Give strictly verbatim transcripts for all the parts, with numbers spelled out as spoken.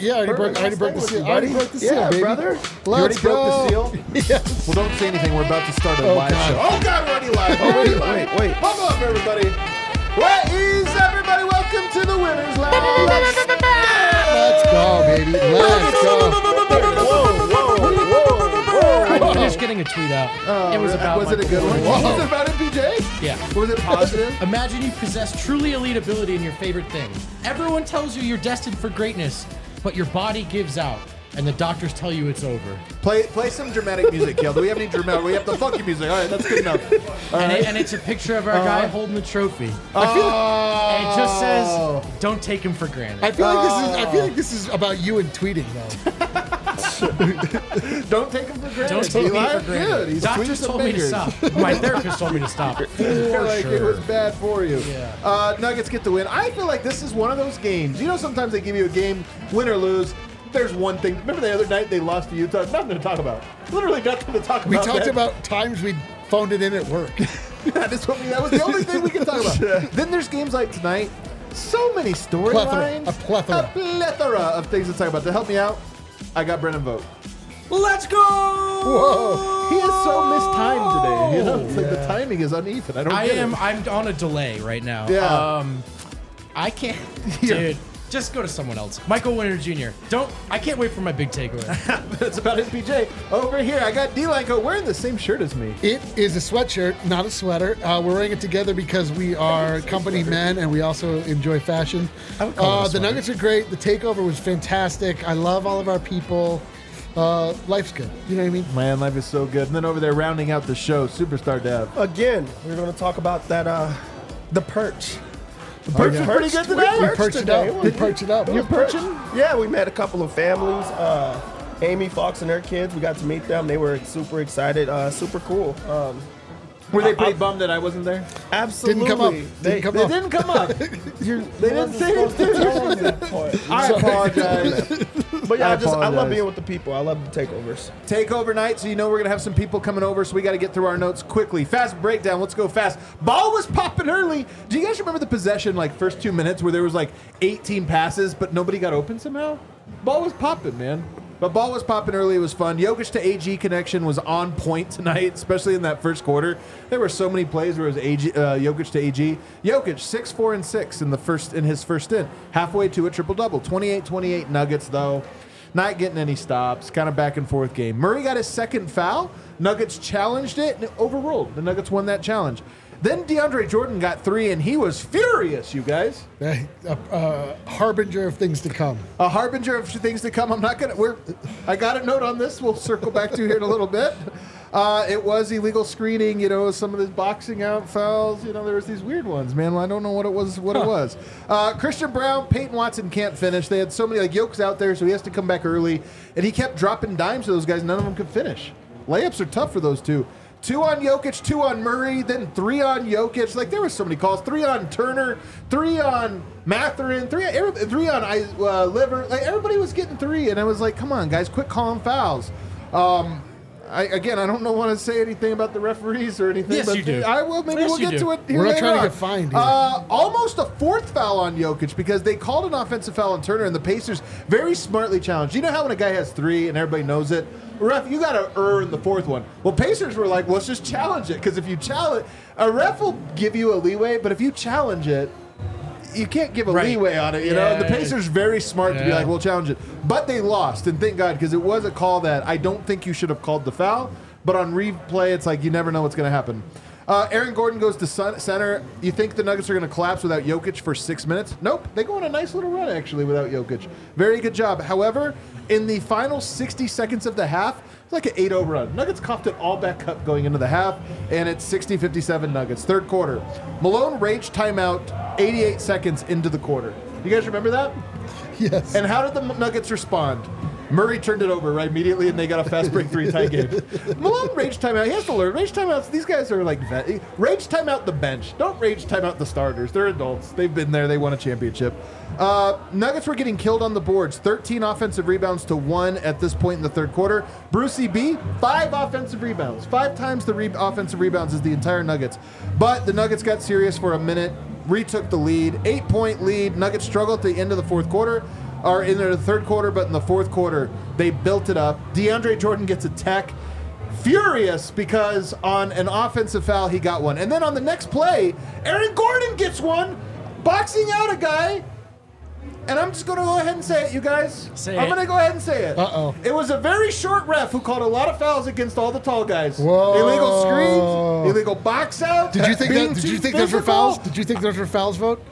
Yeah, I already broke, I already broke the seal. I already broke the seal, yeah, baby. brother. Let's You already go. broke the seal? Yes. Well, don't say anything. We're about to start a Oh, live God. show. Oh, God, we're already live. Oh, wait, wait, wait. Buckle up, everybody. What is everybody? Welcome to the Winners Lounge. Let's Let's go, baby. Let's go. Whoa, whoa, whoa, I whoa. finished getting a tweet out. Oh, it was really? about Was it a Michael good one? Jordan. Was it about M P J? Yeah. Was it positive? Imagine you possess truly elite ability in your favorite thing. Everyone tells you you're destined for greatness, but your body gives out, and the doctors tell you it's over. Play play some dramatic music, Kel. Do we have any dramatic? We have the funky music. All right, that's good enough. All And, right. it, and it's a picture of our guy holding the trophy. I feel And it just says, "Don't take him for granted." I feel like this is. I feel like this is about you and tweeting, though. Don't take him for granted. Don't take me Eli. for granted. Good. He's tweeting Doctors some told me to fingers. stop. My therapist told me to stop. For I feel like sure. it was bad for you. Yeah. Uh, Nuggets get the win. I feel like this is one of those games. You know, sometimes they give you a game, win or lose. There's one thing. Remember the other night they lost to Utah? Nothing to talk about. Literally nothing to talk We about. talked man. about times we phoned it in at work. that, is what we, that was the only thing we can talk about. Then there's games like tonight. So many storylines. A plethora. A plethora of things to talk about. To help me out, I got Brennan Vogt. Let's go! Whoa. He is so mistimed today. You know, it's like the Yeah. timing is uneven. I don't I get am. it. I'm on a delay right now. Yeah. Um, I can't, dude. Just go to someone else. Michael Winter Junior Don't. I can't wait for my big takeaway. It's about M P J. Over here, I got D-Lanco wearing the same shirt as me. It is a sweatshirt, not a sweater. Uh, we're wearing it together because we are company men and we also enjoy fashion. I would call it a Uh, the sweater. Nuggets are great. The takeover was fantastic. I love all of our people. Uh, life's good. You know what I mean? Man, life is so good. And then over there, rounding out the show, Superstar Dev. Again, we're going to talk about that, uh, the perch. The perch was pretty good today. We perched perched it today. up. We perched it up. You're perching? Yeah, we met a couple of families. Uh, Amy Fox and her kids. We got to meet them. They were super excited. Uh, super cool. Um, Were they pretty I- bummed that I wasn't there? absolutely. Didn't come up. They, Didn't come They up. didn't come up. You're, They didn't say it. I apologize. But yeah, I I just I love apologize. being with the people. I love the takeovers. Takeover night, so you know we're going to have some people coming over, so we got to get through our notes quickly. Fast breakdown. Let's go fast. Ball was popping early. Do you guys remember the possession, like, first two minutes where there was, like, eighteen passes, but nobody got open somehow? Ball was popping, man. But ball was popping early. It was fun. Jokic to A G connection was on point tonight, especially in that first quarter. There were so many plays where it was A G, uh, Jokic to A G. Jokic, six, four, and six in the first in his first stint. Halfway to a triple-double. twenty-eight twenty-eight Nuggets, though. Not getting any stops. Kind of back and forth game. Murray got his second foul. Nuggets challenged it and it overruled. The Nuggets won that challenge. Then DeAndre Jordan got three, and he was furious, you guys. A, a harbinger of things to come. A harbinger of things to come. I'm not gonna. We're. I got a note on this. We'll circle back to here in a little bit. Uh, it was illegal screening. You know, some of the boxing out fouls. You know, there was these weird ones, man. I don't know what it was. What it was. Uh, Christian Brown, Peyton Watson can't finish. They had so many like Yoke's out there, so he has to come back early, and he kept dropping dimes to those guys. None of them could finish. Layups are tough for those two. Two on Jokic, two on Murray, then three on Jokic. Like, there were so many calls. Three on Turner, three on Mathurin, three, every- three on uh, Liver. Like, everybody was getting three, and I was like, come on, guys, quit calling fouls. Um, I, again, I don't know want to say anything about the referees or anything. Yes, but you do. I will. Maybe Yes, we'll you get do. to it here We're not later trying to on. get fined here. Uh, almost a fourth foul on Jokic because they called an offensive foul on Turner, and the Pacers very smartly challenged. You know how when a guy has three and everybody knows it? Ref, you got to earn the fourth one. Well, Pacers were like, well, let's just challenge it, because if you challenge, a ref will give you a leeway, but if you challenge it, you can't give a Right. leeway on it, you Yeah. know? The Pacers very smart to be Yeah. like, we'll challenge it. But they lost, and thank God, because it was a call that I don't think you should have called the foul, but on replay, it's like you never know what's going to happen. Uh, Aaron Gordon goes to sun- center. You think the Nuggets are going to collapse without Jokic for six minutes? Nope. They go on a nice little run, actually, without Jokic. Very good job. However, in the final sixty seconds of the half, it's like an eight oh run. Nuggets coughed it all back up going into the half, and it's sixty fifty-seven Nuggets. Third quarter. Malone rage timeout eighty-eight seconds into the quarter. You guys remember that? Yes. And how did the Nuggets respond? Murray turned it over right immediately, and they got a fast break three tie game. Malone rage timeout. He has to learn. Rage timeouts, these guys are like, vet. Rage timeout the bench. Don't rage timeout the starters. They're adults. They've been there. They won a championship. Uh, Nuggets were getting killed on the boards. thirteen offensive rebounds to one at this point in the third quarter. Brucey B, five offensive rebounds. Five times the re- offensive rebounds as the entire Nuggets. But the Nuggets got serious for a minute, retook the lead. Eight-point lead. Nuggets struggled at the end of the fourth quarter. or in the third quarter, but in the fourth quarter, they built it up. DeAndre Jordan gets a tech. Furious because on an offensive foul, he got one. And then on the next play, Aaron Gordon gets one, boxing out a guy. And I'm just going to go ahead and say it, you guys. Say I'm it. going to go ahead and say it. Uh-oh. It was a very short ref who called a lot of fouls against all the tall guys. Whoa. Illegal screens, illegal box out. Did you think being that? Did too you think those were physical. fouls? Did you think those were fouls? Vote.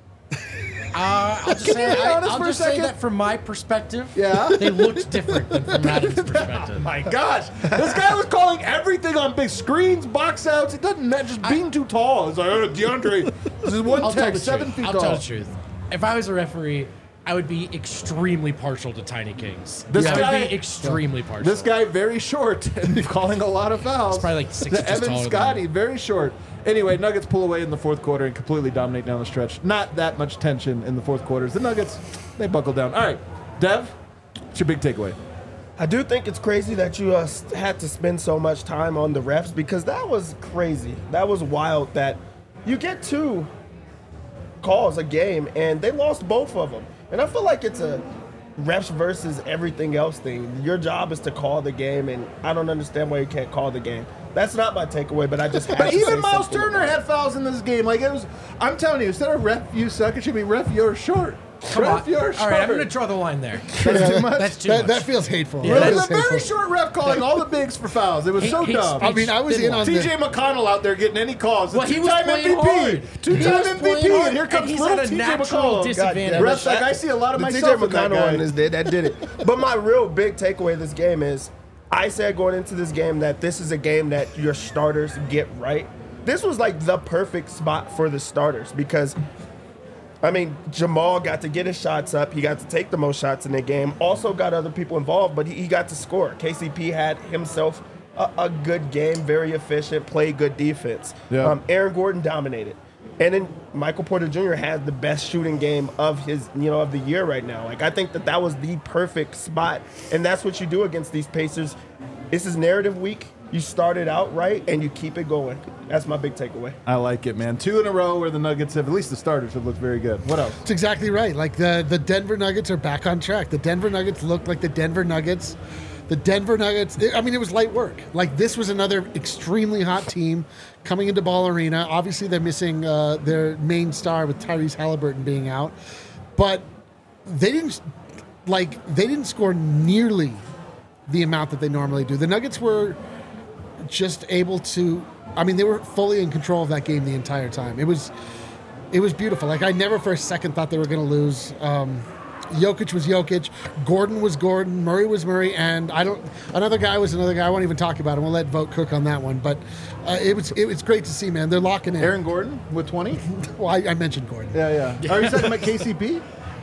Uh, I'll just Can say, you be I, honest I'll for a just say second? that from my perspective, Yeah? they looked different than from Madden's Oh perspective. my gosh. This guy was calling everything on big screens, box outs. It doesn't matter, just being too tall. It's like, oh, DeAndre, this is one I'll tell tech, the seven truth. feet I'll tall. tell the truth. If I was a referee, I would be extremely partial to Tiny Kings. This I guy- would be extremely partial. This guy very short and calling a lot of fouls. He's probably like six The inches Evan taller than Scotty, me. very short. Anyway, Nuggets pull away in the fourth quarter and completely dominate down the stretch. Not that much tension in the fourth quarters. The Nuggets, they buckle down. All right, Dev, what's your big takeaway? I do think it's crazy that you uh, s- had to spend so much time on the refs because that was crazy. That was wild that you get two calls a game and they lost both of them. And I feel like it's a refs versus everything else thing. Your job is to call the game, and I don't understand why you can't call the game. That's not my takeaway, but I just had But to even say Miles something Turner about it. had fouls in this game. Like it was, I'm telling you, instead of ref you suck, it should be ref you're short. Come ref on. you're short. All right, I'm going to draw the line there. That's too much. That's too That, much. that feels hateful. Yeah, That It is was a very hateful. short ref calling all the bigs for fouls. It was Hate- so hate dumb. I mean, I was in on T the. J McConnell out there getting any calls. Well, he was two-time playing M V P. hard. He Two-time was M V playing P. hard, And here and comes he's little at a T J natural McConnell. disadvantage. Refs like, I see a lot of the myself T in J that McConnell guy. one is did that did it. But my real big takeaway of this game is, I said going into this game that this is a game that your starters get right. This was like the perfect spot for the starters because, I mean, Jamal got to get his shots up. He got to take the most shots in the game. Also got other people involved, but he, he got to score. K C P had himself a, a good game, very efficient, played good defense. Yeah. Um, Aaron Gordon dominated. And then Michael Porter Junior had the best shooting game of his, you know, of the year right now. Like, I think that that was the perfect spot. And that's what you do against these Pacers. This is narrative week. You start it out right, and you keep it going. That's my big takeaway. I like it, man. Two in a row where the Nuggets have, at least the starters have looked very good. What else? That's exactly right. Like the, the Denver Nuggets are back on track. The Denver Nuggets look like the Denver Nuggets. The Denver Nuggets, I mean, it was light work. Like this was another extremely hot team coming into Ball Arena. Obviously, they're missing uh, their main star with Tyrese Halliburton being out. But they didn't, like, they didn't score nearly the amount that they normally do. The Nuggets were just able to, I mean, they were fully in control of that game the entire time. It was, it was beautiful. Like I never for a second thought they were going to lose. Um, Jokic was Jokic, Gordon was Gordon, Murray was Murray, and I don't. Another guy was another guy. I won't even talk about him. We'll let Vote cook on that one. But uh, it was it was great to see, man. They're locking in. Aaron Gordon with twenty? Well, I, I mentioned Gordon. Yeah, yeah. Are you talking about K C P? he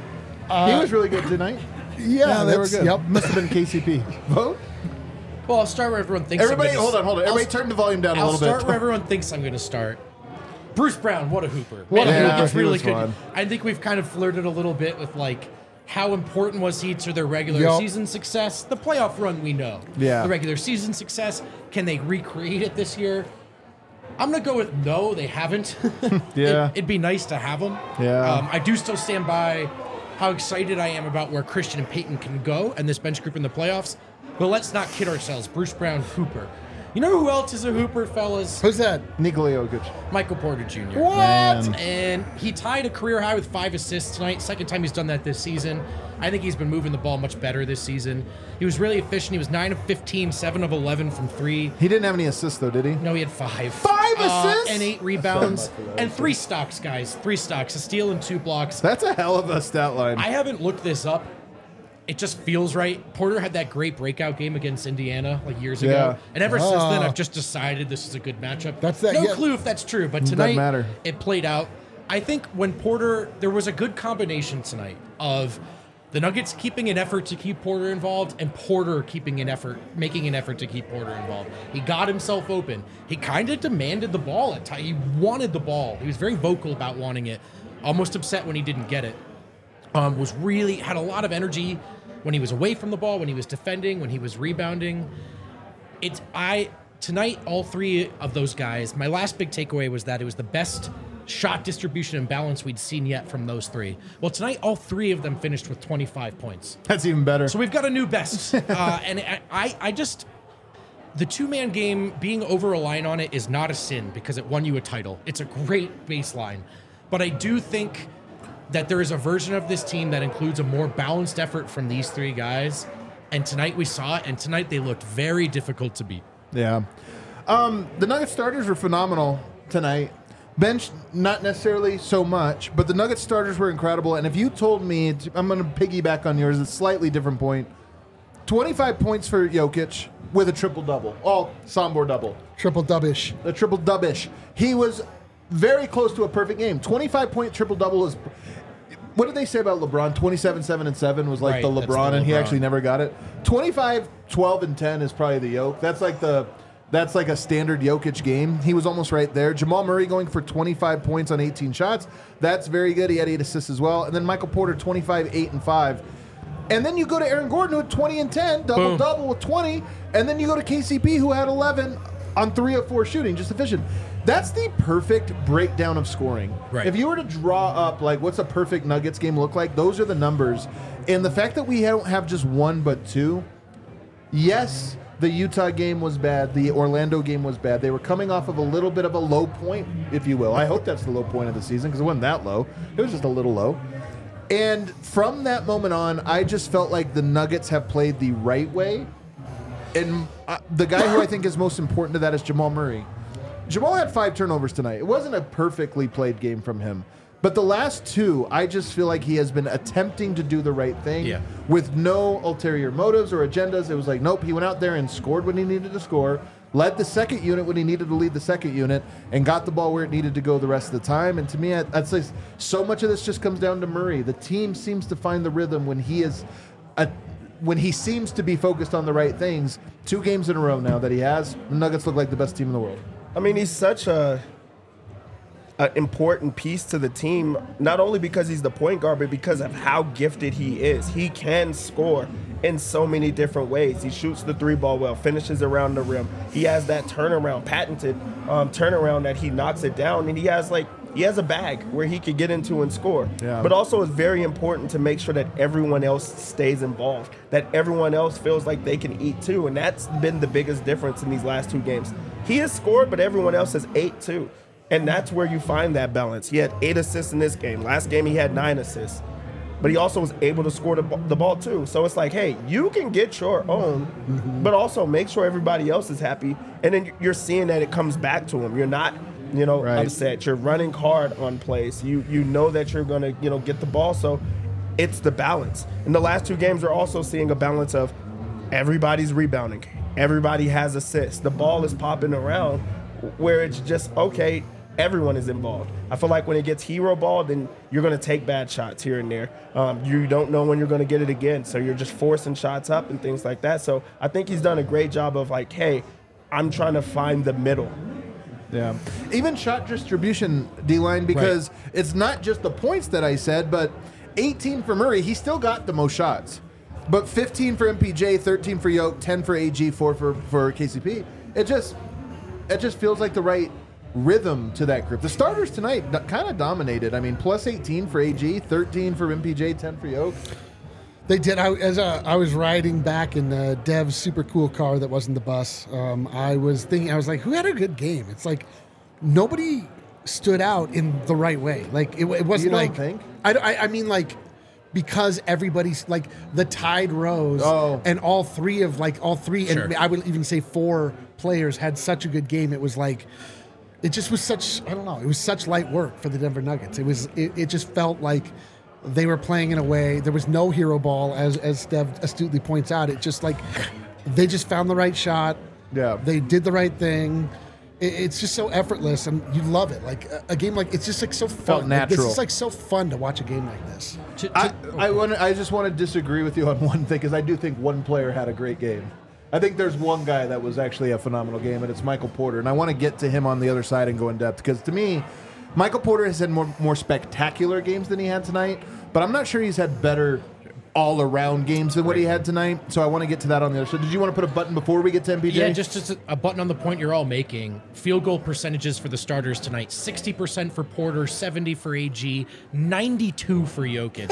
was really good tonight. Yeah, they were that's- good. Yep. Must have been K C P. Vote? Well, I'll start where everyone thinks. Everybody, I'm gonna hold on, hold on. I'll Everybody st- turn the volume down a I'll little start bit. where everyone thinks I'm going to start. Bruce Brown, what a hooper! What a Man, hooper. It's He really was good. fun. I think we've kind of flirted a little bit with like how important was he to their regular Yup. season success. The playoff run, we know. Yeah. The regular season success. Can they recreate it this year? I'm gonna go with no. They haven't. Yeah. it, it'd be nice to have them. Yeah. Um, I do still stand by how excited I am about where Christian and Peyton can go and this bench group in the playoffs. But let's not kid ourselves. Bruce Brown, hooper. You know who else is a hooper, fellas? Who's that? Nikola Jokic. Michael Porter Junior What? Man. And he tied a career high with five assists tonight. Second time he's done that this season. I think he's been moving the ball much better this season. He was really efficient. He was nine of fifteen, seven of eleven from three. He didn't have any assists, though, did he? No, he had five. Five Uh, assists? and eight rebounds. And three stocks, guys. Three stocks. A steal and two blocks. That's a hell of a stat line. I haven't looked this up. It just feels right. Porter had that great breakout game against Indiana like years Yeah. ago. And ever since then, Ah. I've just decided this is a good matchup. That's that- No yeah. clue if that's true, but Doesn't tonight matter. it played out. I think when Porter, there was a good combination tonight of the Nuggets keeping an effort to keep Porter involved and Porter keeping an effort, making an effort to keep Porter involved. He got himself open. He kind of demanded the ball at times. He wanted the ball. He was very vocal about wanting it. Almost upset when he didn't get it. Um, was really, had a lot of energy when he was away from the ball, when he was defending, when he was rebounding. It's, I, tonight, all three of those guys, my last big takeaway was that it was the best shot distribution and balance we'd seen yet from those three. Well, tonight, all three of them finished with twenty-five points. That's even better. So we've got a new best. uh, and I, I, I just, the two-man game, being over-reliant on it is not a sin because it won you a title. It's a great baseline. But I do think that there is a version of this team that includes a more balanced effort from these three guys. And tonight we saw it, and tonight they looked very difficult to beat. Yeah. Um, the Nuggets starters were phenomenal tonight. Bench, not necessarily so much, but the Nuggets starters were incredible. And if you told me, I'm going to piggyback on yours, a slightly different point. twenty-five points for Jokic with a triple-double. All Sombor double. Triple-dubbish. A triple-dubbish. He was very close to a perfect game. twenty-five-point triple-double is... What did they say about LeBron? twenty-seven, seven, and seven was like Right, the that's LeBron, the and he LeBron. actually never got it. twenty-five, twelve, and ten is probably the Jokic. That's like the... That's like a standard Jokic game. He was almost right there. Jamal Murray going for twenty-five points on eighteen shots. That's very good. He had eight assists as well. And then Michael Porter, twenty-five, eight, and five. And then you go to Aaron Gordon, who had twenty and ten, double-double with twenty. And then you go to K C P, who had eleven on three of four shooting, just efficient. That's the perfect breakdown of scoring. Right. If you were to draw up, like, what's a perfect Nuggets game look like, those are the numbers. And the fact that we don't have just one but two, yes, the Utah game was bad. The Orlando game was bad. They were coming off of a little bit of a low point, if you will. I hope that's the low point of the season because it wasn't that low. It was just a little low. And from that moment on, I just felt like the Nuggets have played the right way. And uh, the guy who I think is most important to that is Jamal Murray. Jamal had five turnovers tonight. It wasn't a perfectly played game from him. But the last two, I just feel like he has been attempting to do the right thing Yeah. with no ulterior motives or agendas. It was like, nope, he went out there and scored when he needed to score, led the second unit when he needed to lead the second unit, and got the ball where it needed to go the rest of the time. And to me, I'd say so much of this just comes down to Murray. The team seems to find the rhythm when he is a, when he seems to be focused on the right things. Two games in a row now that he has, the Nuggets look like the best team in the world. I mean, he's such a an important piece to the team, not only because he's the point guard, but because of how gifted he is. He can score in so many different ways. He shoots the three ball well, finishes around the rim. He has that turnaround, patented um, turnaround that he knocks it down, and he has like he has a bag where he could get into and score. Yeah. But also it's very important to make sure that everyone else stays involved, that everyone else feels like they can eat too, and that's been the biggest difference in these last two games. He has scored, but everyone else has ate too. And that's where you find that balance. He had eight assists in this game. Last game, he had nine assists. But he also was able to score the, the ball, too. So it's like, hey, you can get your own, mm-hmm. but also make sure everybody else is happy. And then you're seeing that it comes back to him. You're not, you know, Right. upset. You're running hard on plays. You you know that you're going to, you know, get the ball. So it's the balance. In the last two games, we're also seeing a balance of everybody's rebounding. Everybody has assists. The ball is popping around where it's just, okay, everyone is involved. I feel like when it gets hero ball, then you're going to take bad shots here and there. Um, you don't know when you're going to get it again, so you're just forcing shots up and things like that. So I think he's done a great job of like, hey, I'm trying to find the middle. Yeah. Even shot distribution, D-line, because right. it's not just the points that I said, but eighteen for Murray, he still got the most shots. But fifteen for M P J, thirteen for Yoke, ten for A G, four for, for K C P. It just it just feels like the right rhythm to that group. The starters tonight kind of dominated. I mean, plus eighteen for A G, thirteen for M P J, ten for Yoke. They did. I, as a, I was riding back in uh, Dev's super cool car that wasn't the bus, um, I was thinking, I was like, who had a good game? It's like nobody stood out in the right way. Like it, it wasn't You don't like think? I, I, I mean like because everybody's like the tide rose Oh. and all three of like all three Sure. and I would even say four players had such a good game. It was like it just was such I don't know. It was such light work for the Denver Nuggets. It was it, it just felt like they were playing in a way. There was no hero ball, as as Steph astutely points out. It just like they just found the right shot. Yeah. They did the right thing. It, it's just so effortless, and you love it. Like a, a game like it's just like so fun. Felt Like, natural. this is like so fun to watch a game like this. To- to- I, I, want I just want to disagree with you on one thing, because I do think one player had a great game. I think there's one guy that was actually a phenomenal game, and it's Michael Porter. And I want to get to him on the other side and go in depth, because to me, Michael Porter has had more, more spectacular games than he had tonight, but I'm not sure he's had better all around games than what he had tonight. So I want to get to that on the other. So did you want to put a button before we get to M P J? Yeah, just, just a, a button on the point you're all making. Field goal percentages for the starters tonight: sixty percent for Porter, seventy for A G, ninety-two for Jokic.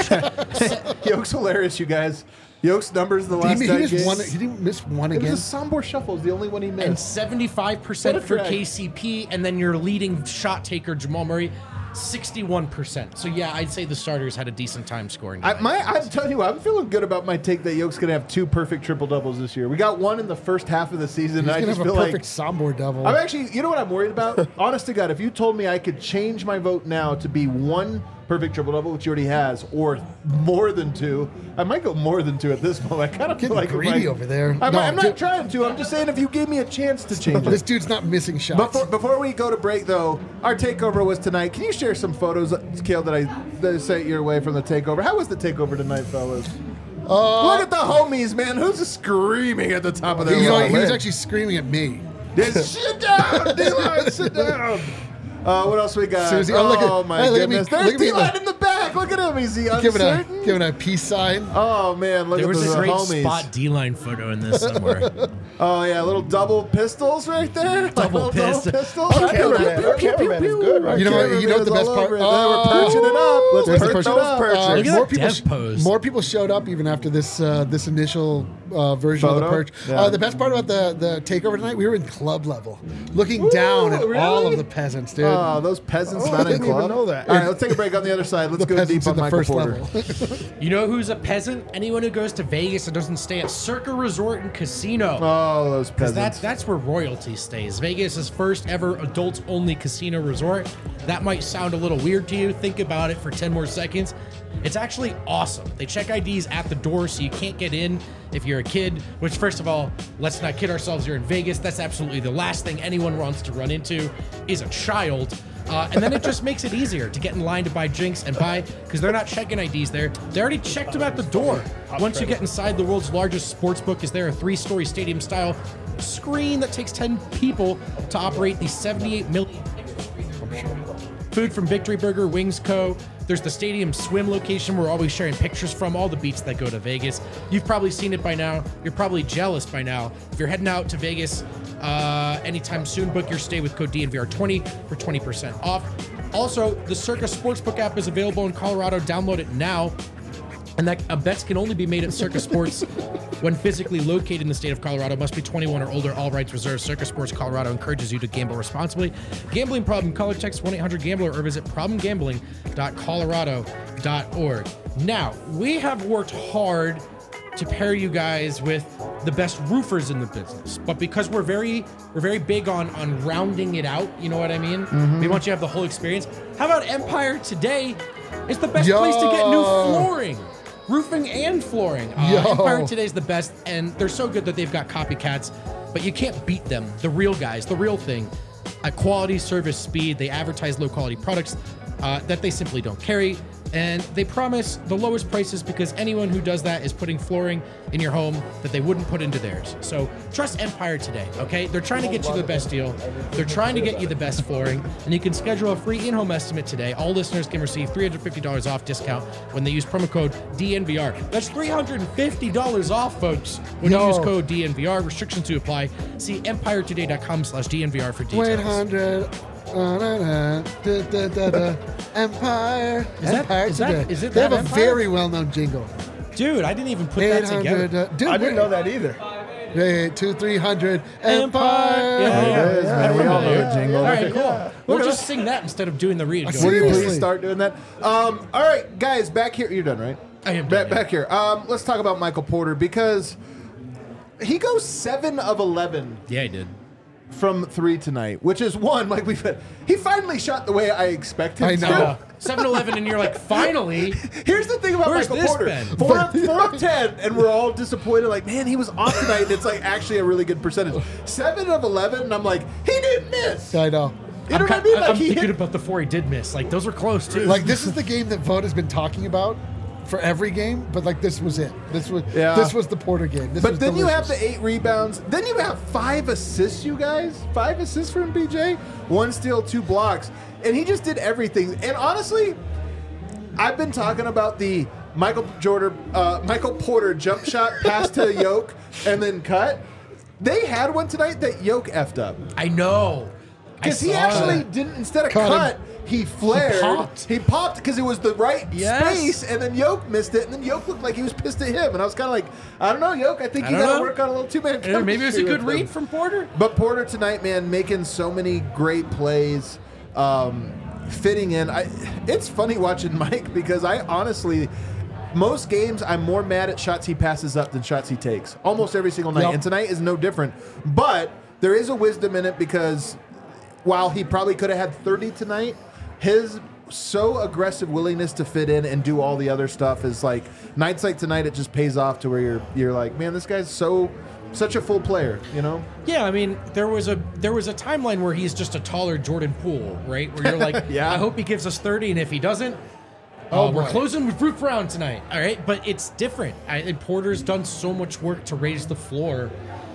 Yoke's hilarious, you guys. Yoke's numbers the last He, nine he, missed games. one, he didn't miss one It again. was a Sombor Shuffle. Is the only one he missed. and seventy-five percent What a for drag. K C P, and then your leading shot taker Jamal Murray, sixty-one percent. So yeah, I'd say the starters had a decent time scoring. I, tonight. my, I'm telling you, I'm feeling good about my take that Yoke's going to have two perfect triple doubles this year. We got one in the first half of the season, He's and I gonna just have a feel perfect like Sombor double. I'm actually. You know what I'm worried about? Honest to God, if you told me I could change my vote now to be one perfect triple double, which he already has, or more than two, I might go more than two at this moment. I kind of feel Getting like greedy like- over there. I'm, No, I'm not dude. trying to. I'm just saying if you gave me a chance to change This it. dude's not missing shots. Before, before we go to break, though, our takeover was tonight. Can you share some photos, Kale, that I, that I sent your way from the takeover? How was the takeover tonight, fellas? Uh, Look at the homies, man. Who's screaming at the top of their you know, lungs? he was actually screaming at me. Just sit down, D-Line, sit down. Uh, what else we got? Seriously, oh, look at- oh, my hey, look at me, goodness. look There's at me, D-Line look. in the back. Look at him. Is he Giving a uncertain? giving a peace sign. Oh, man. Look there at was the a great homies. spot D-line photo in this somewhere. Oh, yeah. Little double pistols right there. Like Double little pistol. pistols. Our cameraman, our cameraman is good, right? You know what- you know what the best part- We're Oh. perching it up. Let's There's the perch perch. it up. Perch. Uh, Look at more that people, dev sh- pose. more people showed up even after this uh, this initial uh, version of Photo? the perch. Yeah. Uh, the best part about the the takeover tonight, we were in club level, looking down at all really? of the peasants, dude. Oh, those peasants Oh, not I in didn't even club. know that. All right, let's take a break on the other side. Let's the go peasants deep in on the Michael first Porter. level. You know who's a peasant? Anyone who goes to Vegas and doesn't stay at Circa Resort and Casino. Oh, those peasants. That's that's where royalty stays. Vegas is first ever adults-only casino resort. That might sound a little weird to you. Think about it for ten more seconds. It's actually awesome. They check I Ds at the door, so you can't get in if you're a kid. Which, first of all, let's not kid ourselves. You're in Vegas. That's absolutely the last thing anyone wants to run into is a child. Uh, and then it just makes it easier to get in line to buy drinks and buy, because they're not checking I Ds there. They already checked them at the door. Once you get inside, the world's largest sports book is there, a three-story stadium-style screen that takes ten people to operate the seventy-eight million. Food from Victory Burger, Wings Co. There's the stadium swim location we're always sharing pictures from, all the beats that go to Vegas. You've probably seen it by now. You're probably jealous by now. If you're heading out to Vegas uh, anytime soon, book your stay with code D N V R twenty for twenty percent off. Also, the Circa Sportsbook app is available in Colorado. Download it now. And that uh, bets can only be made at Circa Sports when physically located in the state of Colorado. Must be twenty-one or older. All rights reserved. Circa Sports Colorado encourages you to gamble responsibly. Gambling problem? Call or text one eight hundred gambler or visit problem gambling dot colorado dot org. Now, we have worked hard to pair you guys with the best roofers in the business, but because we're very we're very big on on rounding it out, you know what I mean? Mm-hmm. We want you to have the whole experience. How about Empire Today? It's the best Yo. place to get new flooring. Roofing and flooring. Uh, Yo. Empire Today's the best, and they're so good that they've got copycats, but you can't beat them. The real guys, the real thing. At quality, service, speed, they advertise low quality products uh, that they simply don't carry. And they promise the lowest prices because anyone who does that is putting flooring in your home that they wouldn't put into theirs. So trust Empire Today, okay? They're trying to get you the best deal. They're trying to get you the best flooring. And you can schedule a free in-home estimate today. All listeners can receive three hundred fifty dollars off discount when they use promo code D N V R. That's three hundred fifty dollars off, folks, when Yo. you use code D N V R. Restrictions to apply. See empire today dot com slash D N V R for details. Wait, hundred. Uh, da, da, da, da, da, da. Empire. Is that- Empire is that- Today. is it they that have a Empire? very well-known jingle. Dude, I didn't even put eight that hundred. together. Uh, dude, I didn't wait. know that either. Eight, two, three hundred. Yeah, Empire. yeah, There it is, man. We all know familiar. a jingle. All right, cool. Yeah. We'll just sing that instead of doing the read. see Will Go. you Seriously. please start doing that? Um, all right, guys, back here. You're done, right? I am Back, done, yeah. back here. Um, let's talk about Michael Porter because he goes seven of eleven Yeah, I did. from three tonight, which is one like we've had. He finally shot the way I expect him I to. know. seven eleven and you're like, finally. Here's the thing about Where's Michael this Porter. been? Four, of, four of ten, and we're all disappointed. Like, man, he was off tonight, and it's like actually a really good percentage. Seven of eleven, and I'm like, he didn't miss. I know. You know I'm, what I mean? I'm Like he thinking hit. about the four he did miss. Like, those were close, too. Like this is the game that Vogt has been talking about for every game, but like this was it. This was Yeah. this was the Porter game. This But was then you have delicious. the eight rebounds. Then you have five assists, you guys. Five assists from B J. One steal, two blocks. And he just did everything. And honestly, I've been talking about the Michael Jordan, uh, Michael Porter jump shot pass to Yoke and then cut. They had one tonight that Yoke effed up. I know. Because I he saw actually that. didn't, instead of Caught cut, him. he flared. He popped. popped because it was the right Yes. space, and then Yoke missed it, and then Yoke looked like he was pissed at him. And I was kind of like, I don't know, Yoke, I think I you don't got to know. work on a little two-man Yeah, maybe it was a chemistry good with him. read from Porter. But Porter tonight, man, making so many great plays, um, fitting in. I, it's funny watching Mike because I honestly, most games I'm more mad at shots he passes up than shots he takes. Almost every single night. Yep. And tonight is no different. But there is a wisdom in it because while he probably could have had thirty tonight, his so aggressive willingness to fit in and do all the other stuff is like nights like tonight. It just pays off to where you're you're like, man, this guy's so such a full player, you know? Yeah, I mean, there was a there was a timeline where he's just a taller Jordan Poole, right? Where you're like, Yeah. I hope he gives us thirty, and if he doesn't, Oh, uh, we're boy. closing with Roof Brown tonight. All right, but it's different. I, and Porter's done so much work to raise the floor.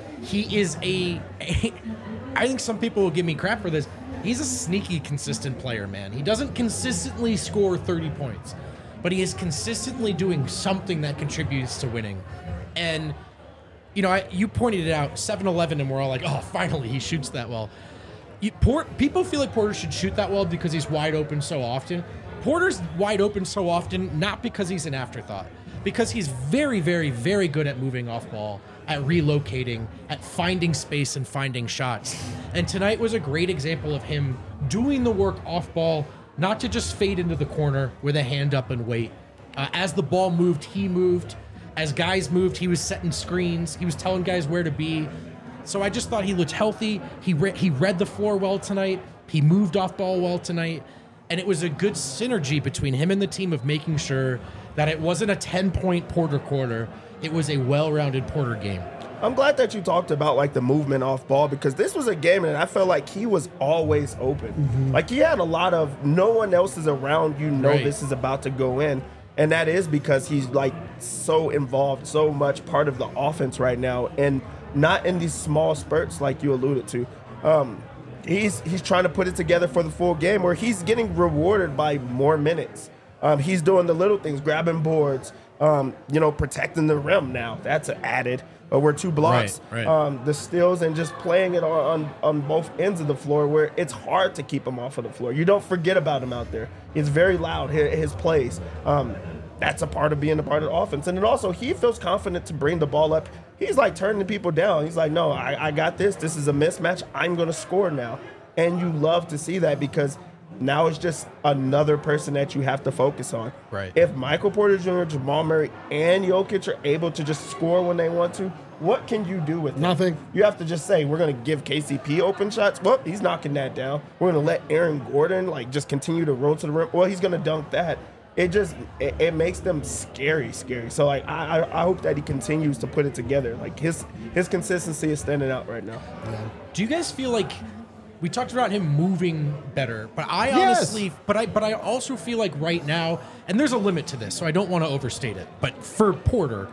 He is a, a. I think some people will give me crap for this. He's a sneaky, consistent player, man. He doesn't consistently score thirty points, but he is consistently doing something that contributes to winning. And you know, I, you pointed it out, seven eleven, and we're all like, oh, finally, he shoots that well. You, Port, people feel like Porter should shoot that well because he's wide open so often. Porter's wide open so often, not because he's an afterthought, because he's very, very, very good at moving off ball, at relocating, at finding space and finding shots. And tonight was a great example of him doing the work off ball, not to just fade into the corner with a hand up and wait. Uh, as the ball moved, he moved. As guys moved, he was setting screens. He was telling guys where to be. So I just thought he looked healthy. He re- he read the floor well tonight. He moved off ball well tonight. And it was a good synergy between him and the team of making sure that it wasn't a ten-point Porter quarter. It was a well-rounded Porter game. I'm glad that you talked about like the movement off ball because this was a game that I felt like he was always open. Mm-hmm. Like he had a lot of no one else is around. You know Right. this is about to go in. And that is because he's like so involved, so much part of the offense right now, and not in these small spurts like you alluded to. Um, he's he's trying to put it together for the full game where he's getting rewarded by more minutes. Um, he's doing the little things, grabbing boards, um, you know, protecting the rim now. That's added. Uh, we're two blocks. Right, right. Um, the steals and just playing it on, on on both ends of the floor where it's hard to keep him off of the floor. You don't forget about him out there. He's very loud, his, his plays. Um, that's a part of being a part of the offense. And then also he feels confident to bring the ball up. He's like turning people down. He's like, no, I, I got this. This is a mismatch. I'm going to score now. And you love to see that because now it's just another person that you have to focus on. Right. If Michael Porter Junior, Jamal Murray, and Jokic are able to just score when they want to, what can you do with that? Nothing. You have to just say, we're going to give K C P open shots. Well, he's knocking that down. We're going to let Aaron Gordon, like, just continue to roll to the rim. Well, he's going to dunk that. It just, it, it makes them scary, scary. So, like, I, I I hope that he continues to put it together. Like, his his consistency is standing out right now. Do you guys feel like we talked about him moving better, but I Yes. honestly, but I, but I also feel like right now, and there's a limit to this, so I don't want to overstate it. But for Porter,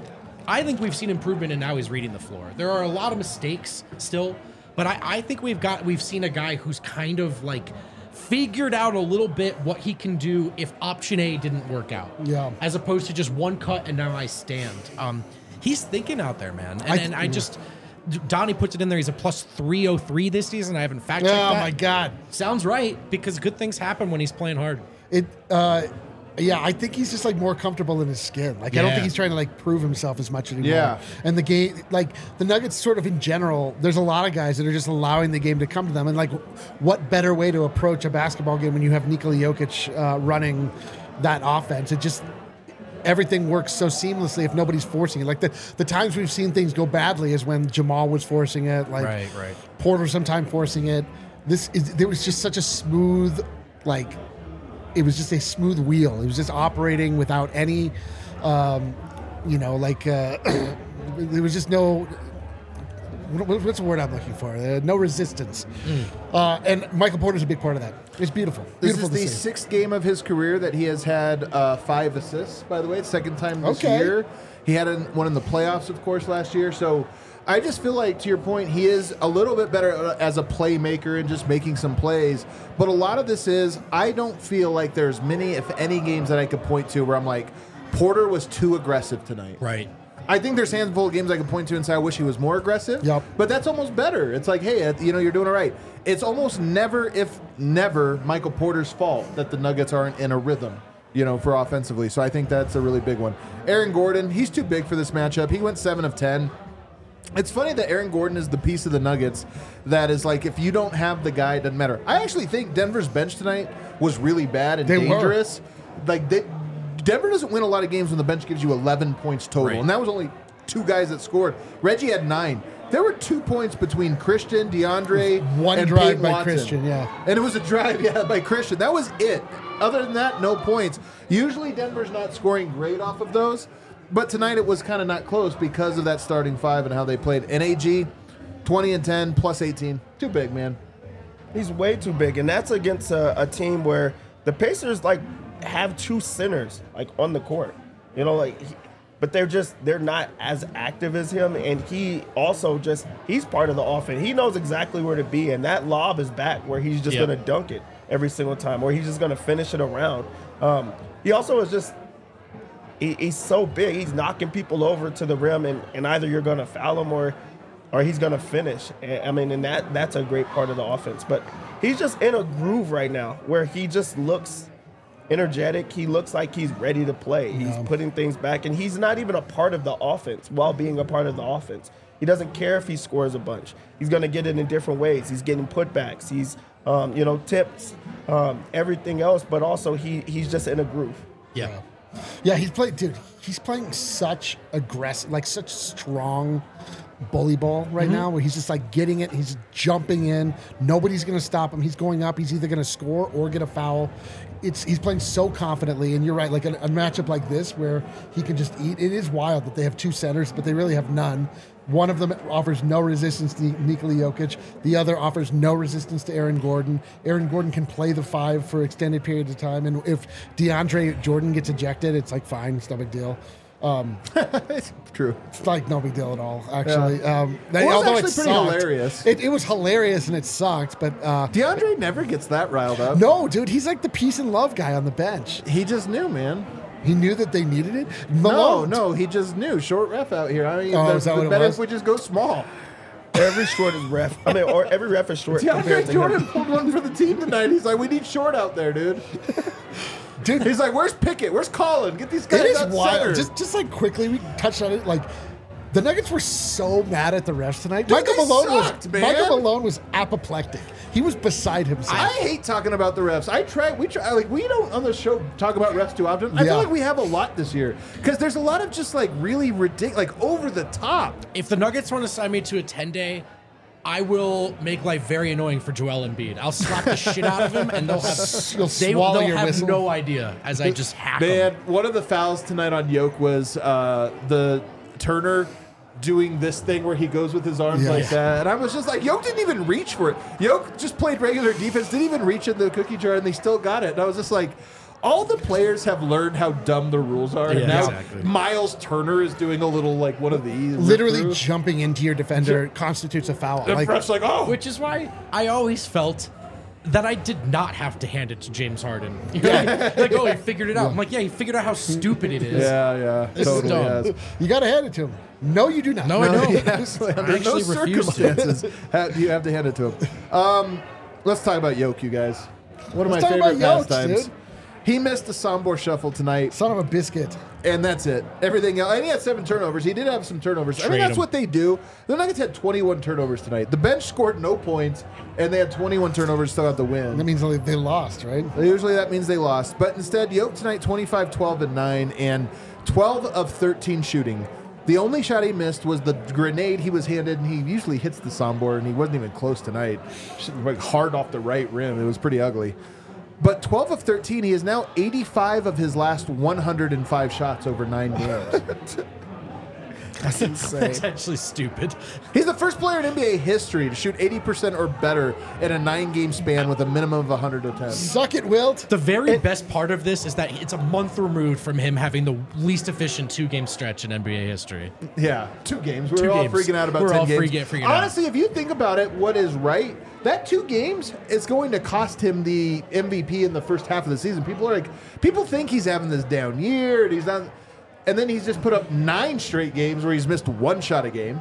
I think we've seen improvement, and now he's reading the floor. There are a lot of mistakes still, but I, I think we've got we've seen a guy who's kind of like figured out a little bit what he can do if option A didn't work out. Yeah. As opposed to just one cut and now I stand. Um, he's thinking out there, man, and I I, th- and I just. Donnie puts it in there. He's a plus three oh three this season. I haven't fact checked Oh that. my God. Sounds right because good things happen when he's playing hard. It, uh, yeah, I think he's just like more comfortable in his skin. Like I don't Yeah. think he's trying to like prove himself as much anymore. Yeah. And the game, like the Nuggets, sort of in general, there's a lot of guys that are just allowing the game to come to them. And like, what better way to approach a basketball game when you have Nikola Jokic uh, running that offense? It just everything works so seamlessly if nobody's forcing it. Like the the times we've seen things go badly is when Jamal was forcing it, like Right, right. Porter sometimes forcing it. This is there was just such a smooth, like it was just a smooth wheel. It was just operating without any, um, you know, like uh, there was just no. what- What's the word I'm looking for? Uh, no resistance. Uh, and Michael Porter's a big part of that. It's beautiful. This Beautiful is to the see. sixth game of his career that he has had uh, five assists, by the way. Second time this Okay. year. He had an, one in the playoffs, of course, last year. So I just feel like, to your point, he is a little bit better as a playmaker and just making some plays. But a lot of this is, I don't feel like there's many, if any, games that I could point to where I'm like, Porter was too aggressive tonight. Right. I think there's handful of games I could point to and say I wish he was more aggressive. Yep. But that's almost better. It's like, hey, you know, you're doing it right. It's almost never, if never, Michael Porter's fault that the Nuggets aren't in a rhythm, you know, for offensively. So I think that's a really big one. Aaron Gordon, he's too big for this matchup. He went seven of ten. It's funny that Aaron Gordon is the piece of the Nuggets that is like, if you don't have the guy, it doesn't matter. I actually think Denver's bench tonight was really bad and They were. dangerous. Like, they, Denver doesn't win a lot of games when the bench gives you eleven points total. Right. And that was only two guys that scored. Reggie had nine. There were two points between Christian, DeAndre, One and drive Peyton by Watson. Christian, yeah. And it was a drive, yeah, by Christian. That was it. Other than that, no points. Usually Denver's not scoring great off of those, but tonight it was kind of not close because of that starting five and how they played. And A G, twenty and ten, plus eighteen. Too big, man. He's way too big, and that's against a, a team where the Pacers like have two centers like on the court. You know, like, he, but they're just they're not as active as him, and he also just he's part of the offense. He knows exactly where to be, and that lob is back where he's just Yep. gonna dunk it every single time, or he's just gonna finish it around. Um, he also is just he, he's so big, he's knocking people over to the rim, and, and either you're gonna foul him or or he's gonna finish. And, I mean, and that that's a great part of the offense. But he's just in a groove right now where he just looks energetic. He looks like he's ready to play. He's putting things back, and he's not even a part of the offense while being a part of the offense. He doesn't care if he scores a bunch. He's going to get it in different ways. He's getting putbacks. He's, um, you know, tips, um, everything else, but also he he's just in a groove. Yeah. Yeah, he's playing, dude. He's playing such aggressive, like such strong bully ball right now, where he's just like getting it. He's jumping in. Nobody's going to stop him. He's going up. He's either going to score or get a foul. It's he's playing so confidently, and you're right. Like a, a matchup like this, where he can just eat. It is wild that they have two centers, but they really have none. One of them offers no resistance to Nikola Jokic. The other offers no resistance to Aaron Gordon. Aaron Gordon can play the five for extended periods of time, and if DeAndre Jordan gets ejected, it's like fine, it's no big deal. Um, It's true. it's like no big deal at all, actually. Um, Well, it was although actually it pretty sucked. hilarious. It, it was hilarious and it sucked, but uh, DeAndre never gets that riled up. no, dude, he's like the peace and love guy on the bench. He just knew, man. He knew that they needed it. No, Malone, no, he just knew. Short ref out here. I mean, Oh, the, is that the what it better was? if we just go small. Every short is ref. I mean, or every ref is short compared DeAndre to Jordan him. pulled one for the team tonight. He's like, we need short out there, dude. dude, He's like, where's Pickett? Where's Colin? Get these guys it is out wild. center. Just, just like quickly, we touched on it. Like the Nuggets were so mad at the refs tonight. Dude, Michael they Malone sucked, was man. Michael Malone was apoplectic. He was beside himself. I hate talking about the refs. I try. We try. Like we don't on the show talk about refs too often. I Yeah. feel like we have a lot this year because there's a lot of just like really ridiculous, like over the top. If the Nuggets want to sign me to a ten day, I will make life very annoying for Joel Embiid. I'll slap the shit out of him, and they'll have You'll they, swallow they'll your have whistle. no idea as I just hack Man, them. one of the fouls tonight on Yoke was uh, the Turner doing this thing where he goes with his arms Yeah. like that. And I was just like, Yoke didn't even reach for it. Yoke just played regular defense, didn't even reach in the cookie jar, and they still got it. And I was just like, all the players have learned how dumb the rules are. Yeah, and now exactly. Miles Turner is doing a little like one of these. Literally rip-through. jumping into your defender constitutes a foul. The Like, ref's like, oh. Which is why I always felt that I did not have to hand it to James Harden. You know, like, like, oh, he figured it out. I'm like, yeah, he figured out how stupid it is. yeah, yeah, This is totally dumb. has. you got to hand it to him. No, you do not. No, I don't. Yes, I under no actually refuse to. circumstances ha- do you have to hand it to him. Um, let's talk about Yoke, you guys. One of Let's my talk favorite about Yoke, pastimes. dude. He missed the Sombor shuffle tonight, Son of a biscuit. and that's it. Everything else, and he had seven turnovers. He did have some turnovers. I mean, Trade that's him. what they do. The Nuggets had twenty-one turnovers tonight. The bench scored no points, and they had twenty-one turnovers, still got the win. That means they they lost, right? Usually that means they lost. But instead, Yoke tonight, twenty-five, twelve, and nine, and twelve of thirteen shooting. The only shot he missed was the grenade he was handed, and he usually hits the Sombor, and he wasn't even close tonight. Just like hard off the right rim. It was pretty ugly. But twelve of thirteen, he is now eighty-five of his last one hundred five shots over nine games. That's insane. That's actually stupid. He's the first player in N B A history to shoot eighty percent or better in a nine-game span with a minimum of one hundred attempts. Suck it, Wilt. The very best part of this is that it's a month removed from him having the least efficient two-game stretch in N B A history. Yeah, two games. We Two were all games. freaking out about We're ten all games. freaking- freaking out. Honestly, if you think about it, what is right, that two games is going to cost him the M V P in the first half of the season. People are like, people think he's having this down year, and he's not, and then he's just put up nine straight games where he's missed one shot a game.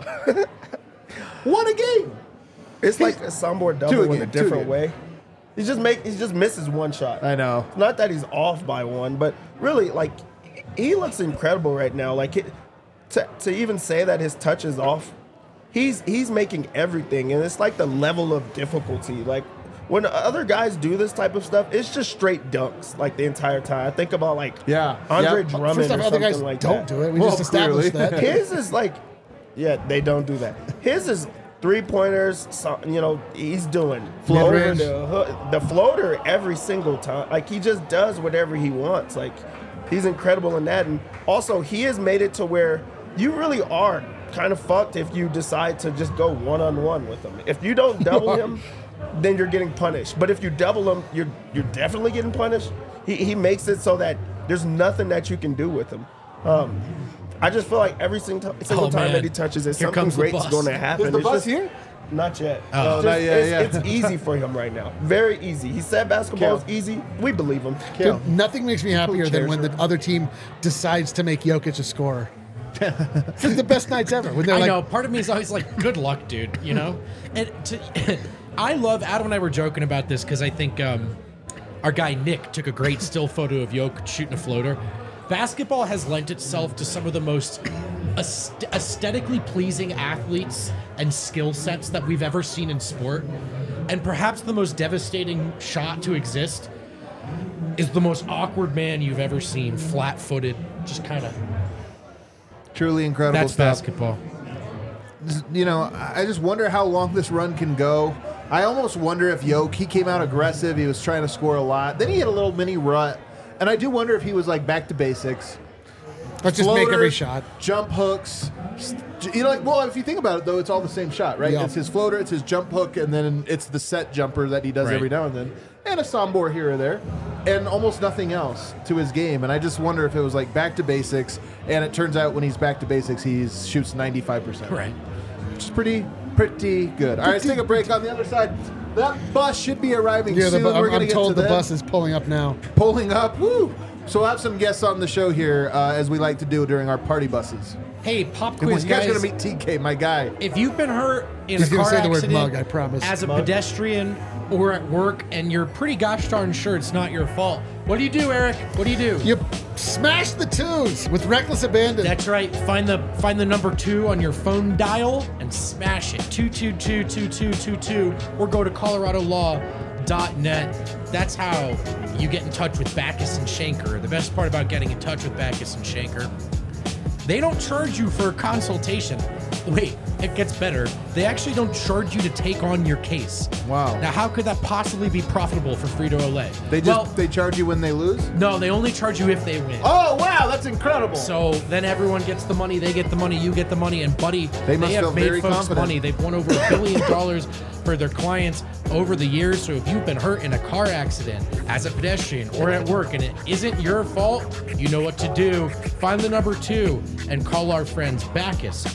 One a game. It's like a soundboard Two double again, in a two different again. way. He just make he just misses one shot. I know. It's not that he's off by one, but really, like, he looks incredible right now. Like, it, to to even say that his touch is off, he's he's making everything, and it's like the level of difficulty. Like, when other guys do this type of stuff, it's just straight dunks like the entire time. I think about like Yeah. Andre Yep. Drummond First or off, other something guys like don't that. do it. We Well, just established clearly. that. His is like, yeah, they don't do that. His is three pointers. So, you know, he's doing over Mid-range. the hook, the floater every single time. Like, he just does whatever he wants. Like, he's incredible in that. And also, he has made it to where you really are kind of fucked if you decide to just go one on one with him. If you don't double him, then you're getting punished. But if you double him, you're you're definitely getting punished. He he makes it so that there's nothing that you can do with him. Um, I just feel like every single, single Oh, time man. that he touches it, Here something comes the great's bus. going to happen. Is the It's bus just- here? Not yet. Oh. Uh, Not yet, it's, yeah. it's easy for him right now. Very easy. He said basketball is Cal. easy. We believe him. Cal. Dude, nothing makes me happier than chairs when the around. other team decides to make Jokic a scorer. It's like the best nights ever. When they're I like, know. Part of me is always like, good luck, dude, you know? And to, I love, Adam and I were joking about this because I think um, our guy Nick took a great still photo of Jokic shooting a floater. Basketball has lent itself to some of the most aest- aesthetically pleasing athletes and skill sets that we've ever seen in sport. And perhaps the most devastating shot to exist is the most awkward man you've ever seen, flat-footed, just kind of. Truly incredible That's stuff. basketball. You know, I just wonder how long this run can go. I almost wonder if Yoke, he came out aggressive. He was trying to score a lot. Then he hit a little mini rut. And I do wonder if he was like back to basics. let's just make every Floaters, shot. Jump hooks. st- You know, like, well, if you think about it, though, it's all the same shot, right? Yeah. It's his floater, it's his jump hook, and then it's the set jumper that he does Right. every now and then, and a sombor here or there, and almost nothing else to his game. And I just wonder if it was like back to basics. And it turns out when he's back to basics, he shoots ninety-five percent. Right. Which is pretty, pretty good. All right, let's take a break. On the other side, that bus should be arriving Yeah, the, soon. bu- We're I'm, going to I'm get told to the them. bus is pulling up now. Pulling up. Woo! So we'll have some guests on the show here, uh, as we like to do during our party buses. Hey, pop And quiz, you guys are guys. going to meet T K, my guy. If you've been hurt in He's a gonna car say the word accident, mug, I promise. as a Mug? pedestrian or at work, and you're pretty gosh darn sure it's not your fault, what do you do, Eric? What do you do? You smash the twos with reckless abandon. That's right. Find the find the number two on your phone dial and smash it. Two two two two two two two, or go to Colorado Law dot net. That's how you get in touch with Backus and Shanker. The best part about getting in touch with Backus and Shanker, they don't charge you for a consultation. Wait, it gets better. They actually don't charge you to take on your case. Wow. Now, how could that possibly be profitable for Frito-Lay? They just well, they charge you when they lose? no, they only charge you if they win. Oh, wow, that's incredible. So then everyone gets the money, they get the money, you get the money, and buddy, They must have feel made very folks confident. money. They've won over a billion dollars for their clients over the years. So if you've been hurt in a car accident, as a pedestrian, or at work, and it isn't your fault, you know what to do. Find the number two and call our friends Backus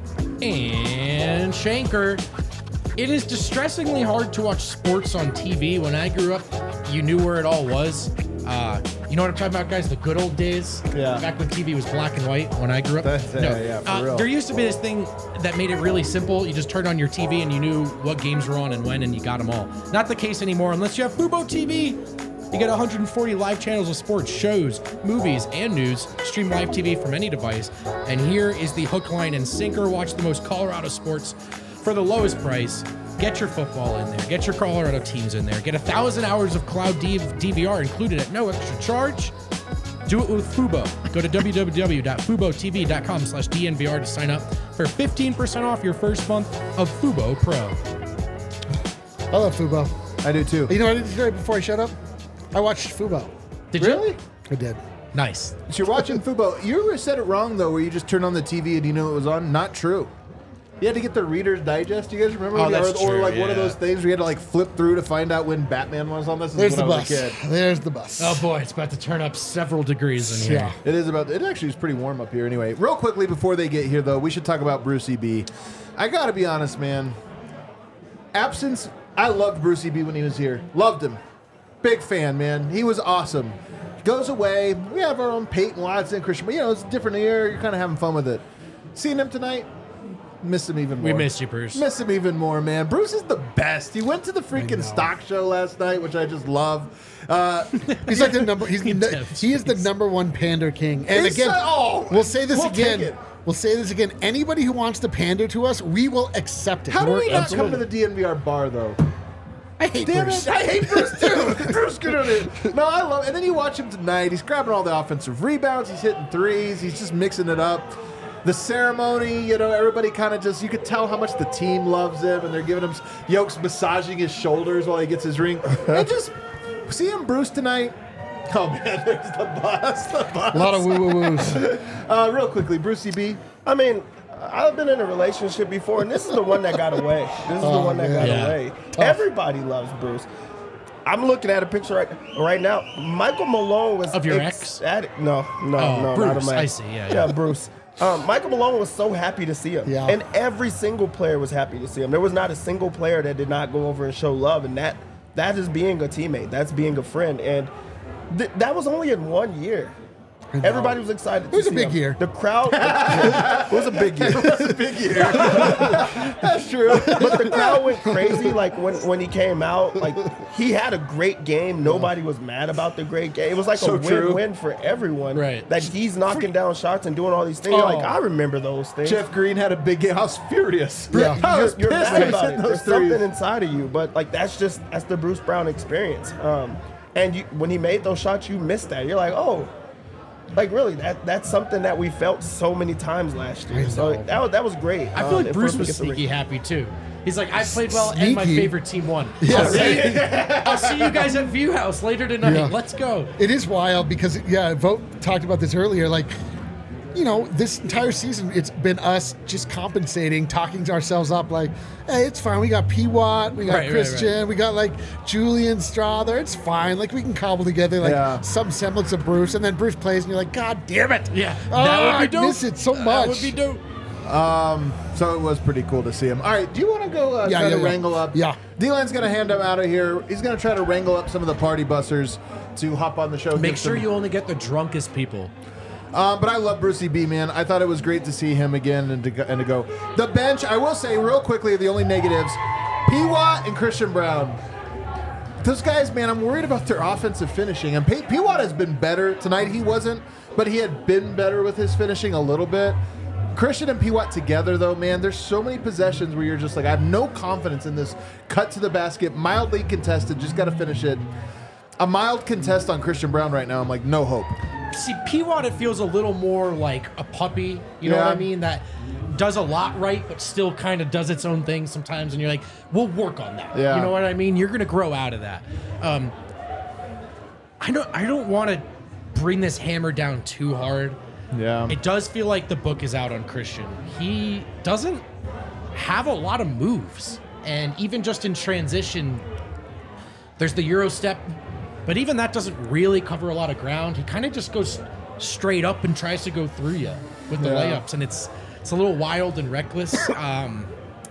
and Shanker. It is distressingly hard to watch sports on T V. When I grew up, you knew where it all was. Uh, you know what I'm talking about, guys? The good old days. Yeah. Back when T V was black and white. When I grew up. That's- no. yeah, yeah, for uh, real. There used to be this thing that made it really simple. You just turned on your T V and you knew what games were on and when, and you got them all. Not the case anymore unless you have Fubo T V. You get one hundred forty live channels of sports, shows, movies, and news. Stream live T V from any device. And here is the hook, line, and sinker. Watch the most Colorado sports for the lowest price. Get your football in there. Get your Colorado teams in there. Get a thousand hours of cloud D V R included at no extra charge. Do it with Fubo. Go to w w w dot fubo t v dot com slash d n v r to sign up for fifteen percent off your first month of Fubo Pro. I love Fubo. I do too. You know what I did today before I shut up? I watched Fubo. Did Really? you? I did. Nice. So you're watching football. You ever said it wrong, though, where you just turned on the T V and you knew it was on? Not true. You had to get the Reader's Digest. You guys remember? Oh, when you- that's or, or true, like one of yeah. those things where you had to like flip through to find out when Batman was on this. This There's is the when I was a bus. kid. There's the bus. Oh boy, it's about to turn up several degrees in here. Yeah. It is about. It actually is pretty warm up here. Anyway, real quickly before they get here, though, we should talk about Brucey B. I gotta be honest, man. Absence. I loved Brucey B when he was here. Loved him. Big fan, man. He was awesome. Goes away. We have our own Peyton Watson, Christian. But you know, it's a different year. You're kind of having fun with it. Seeing him tonight, miss him even more. We miss you, Bruce. Miss him even more, man. Bruce is the best. He went to the freaking stock show last night, which I just love. Uh, He's like the number. He's He the, does. he is the number one pander king. And He's again, so- oh, we'll say this we'll again. take it. We'll say this again. Anybody who wants to pander to us, we will accept it. how do We're we not absolutely- come to the D N V R bar, though? I hate Damn Bruce. it! I hate Bruce too. Bruce good at it. No, I love. And then you watch him tonight. He's grabbing all the offensive rebounds. He's hitting threes. He's just mixing it up. The ceremony, you know, everybody kind of just, you could tell how much the team loves him, and they're giving him Yoke's massaging his shoulders while he gets his ring. And just seeing Bruce tonight. Oh man, there's the bus. The bus. A lot of woo woo woos. Uh, real quickly, Brucey B. I mean, I've been in a relationship before, and this is the one that got away. This is the Oh, one that man. got Yeah. away. Tough. Everybody loves Bruce. I'm looking at a picture right right now. Michael Malone was Of your ecstatic. No, no, Oh, no, Bruce. not of my I see. Yeah, yeah. Bruce. Um, Michael Malone was so happy to see him, Yeah. and every single player was happy to see him. There was not a single player that did not go over and show love, and that that is being a teammate. That's being a friend, and th- that was only in one year. Everybody was excited. It was to a see big him. year. The crowd. It was a big year. That's a big year. That's true. But the crowd went crazy. Like when, when he came out, like he had a great game. Nobody was mad about the great game. It was like So a true. win-win for everyone. Right. That he's knocking down shots and doing all these things. You're like, Oh. I remember those things. Jeff Green had a big game. I was furious. Yeah. I was you're, you're pissed mad when he about hit it. those There's threes. something inside of you, but like that's just that's the Bruce Brown experience. Um, and you, when he made those shots, you missed that. You're like, oh, like really, that that's something that we felt so many times last year. So know. that was that was great. I feel Um, like and Bruce for him to was get the ring. sneaky happy too. He's like, I played well and my Sneaky? favorite team won. I'll, see, I'll see you guys at View House later tonight. Yeah. Let's go. It is wild because, yeah, Vogt talked about this earlier. Like, you know, this entire season, it's been us just compensating, talking to ourselves up like, hey, it's fine. We got P. Watt, we got Right, right, Christian, right. we got like Julian Strother. It's fine. Like, we can cobble together like Yeah. some semblance of Bruce. And then Bruce plays, and you're like, God damn it. Yeah, Oh, that would I be dope. miss it so much. That would be dope. Um, so it was pretty cool to see him. All right, do you want to go uh, Yeah, try yeah, to yeah. wrangle up? Yeah. D-Line's going to hand him out of here. He's going to try to wrangle up some of the party busters to hop on the show. Make give sure some- you only get the drunkest people. Um, but I love Brucey B, man. I thought it was great to see him again and to go, and to go. The bench, I will say real quickly, the only negatives, P. Watt and Christian Brown. Those guys, man, I'm worried about their offensive finishing. And P. P. Watt has been better. Tonight he wasn't, but he had been better with his finishing a little bit. Christian and P. Watt together, though, man, there's so many possessions where you're just like, I have no confidence in this cut to the basket, mildly contested, just got to finish it. A mild contest on Christian Brown right now, I'm like, no hope. See, P. Watt, it feels a little more like a puppy. You know Yeah. what I mean? That does a lot right, but still kind of does its own thing sometimes. And you're like, we'll work on that. Yeah. You know what I mean? You're going to grow out of that. Um, I don't, I don't want to bring this hammer down too hard. Yeah. It does feel like the book is out on Christian. He doesn't have a lot of moves. And even just in transition, there's the Euro step, but even that doesn't really cover a lot of ground. He kind of just goes straight up and tries to go through you with the Yeah. layups, and it's it's a little wild and reckless. um,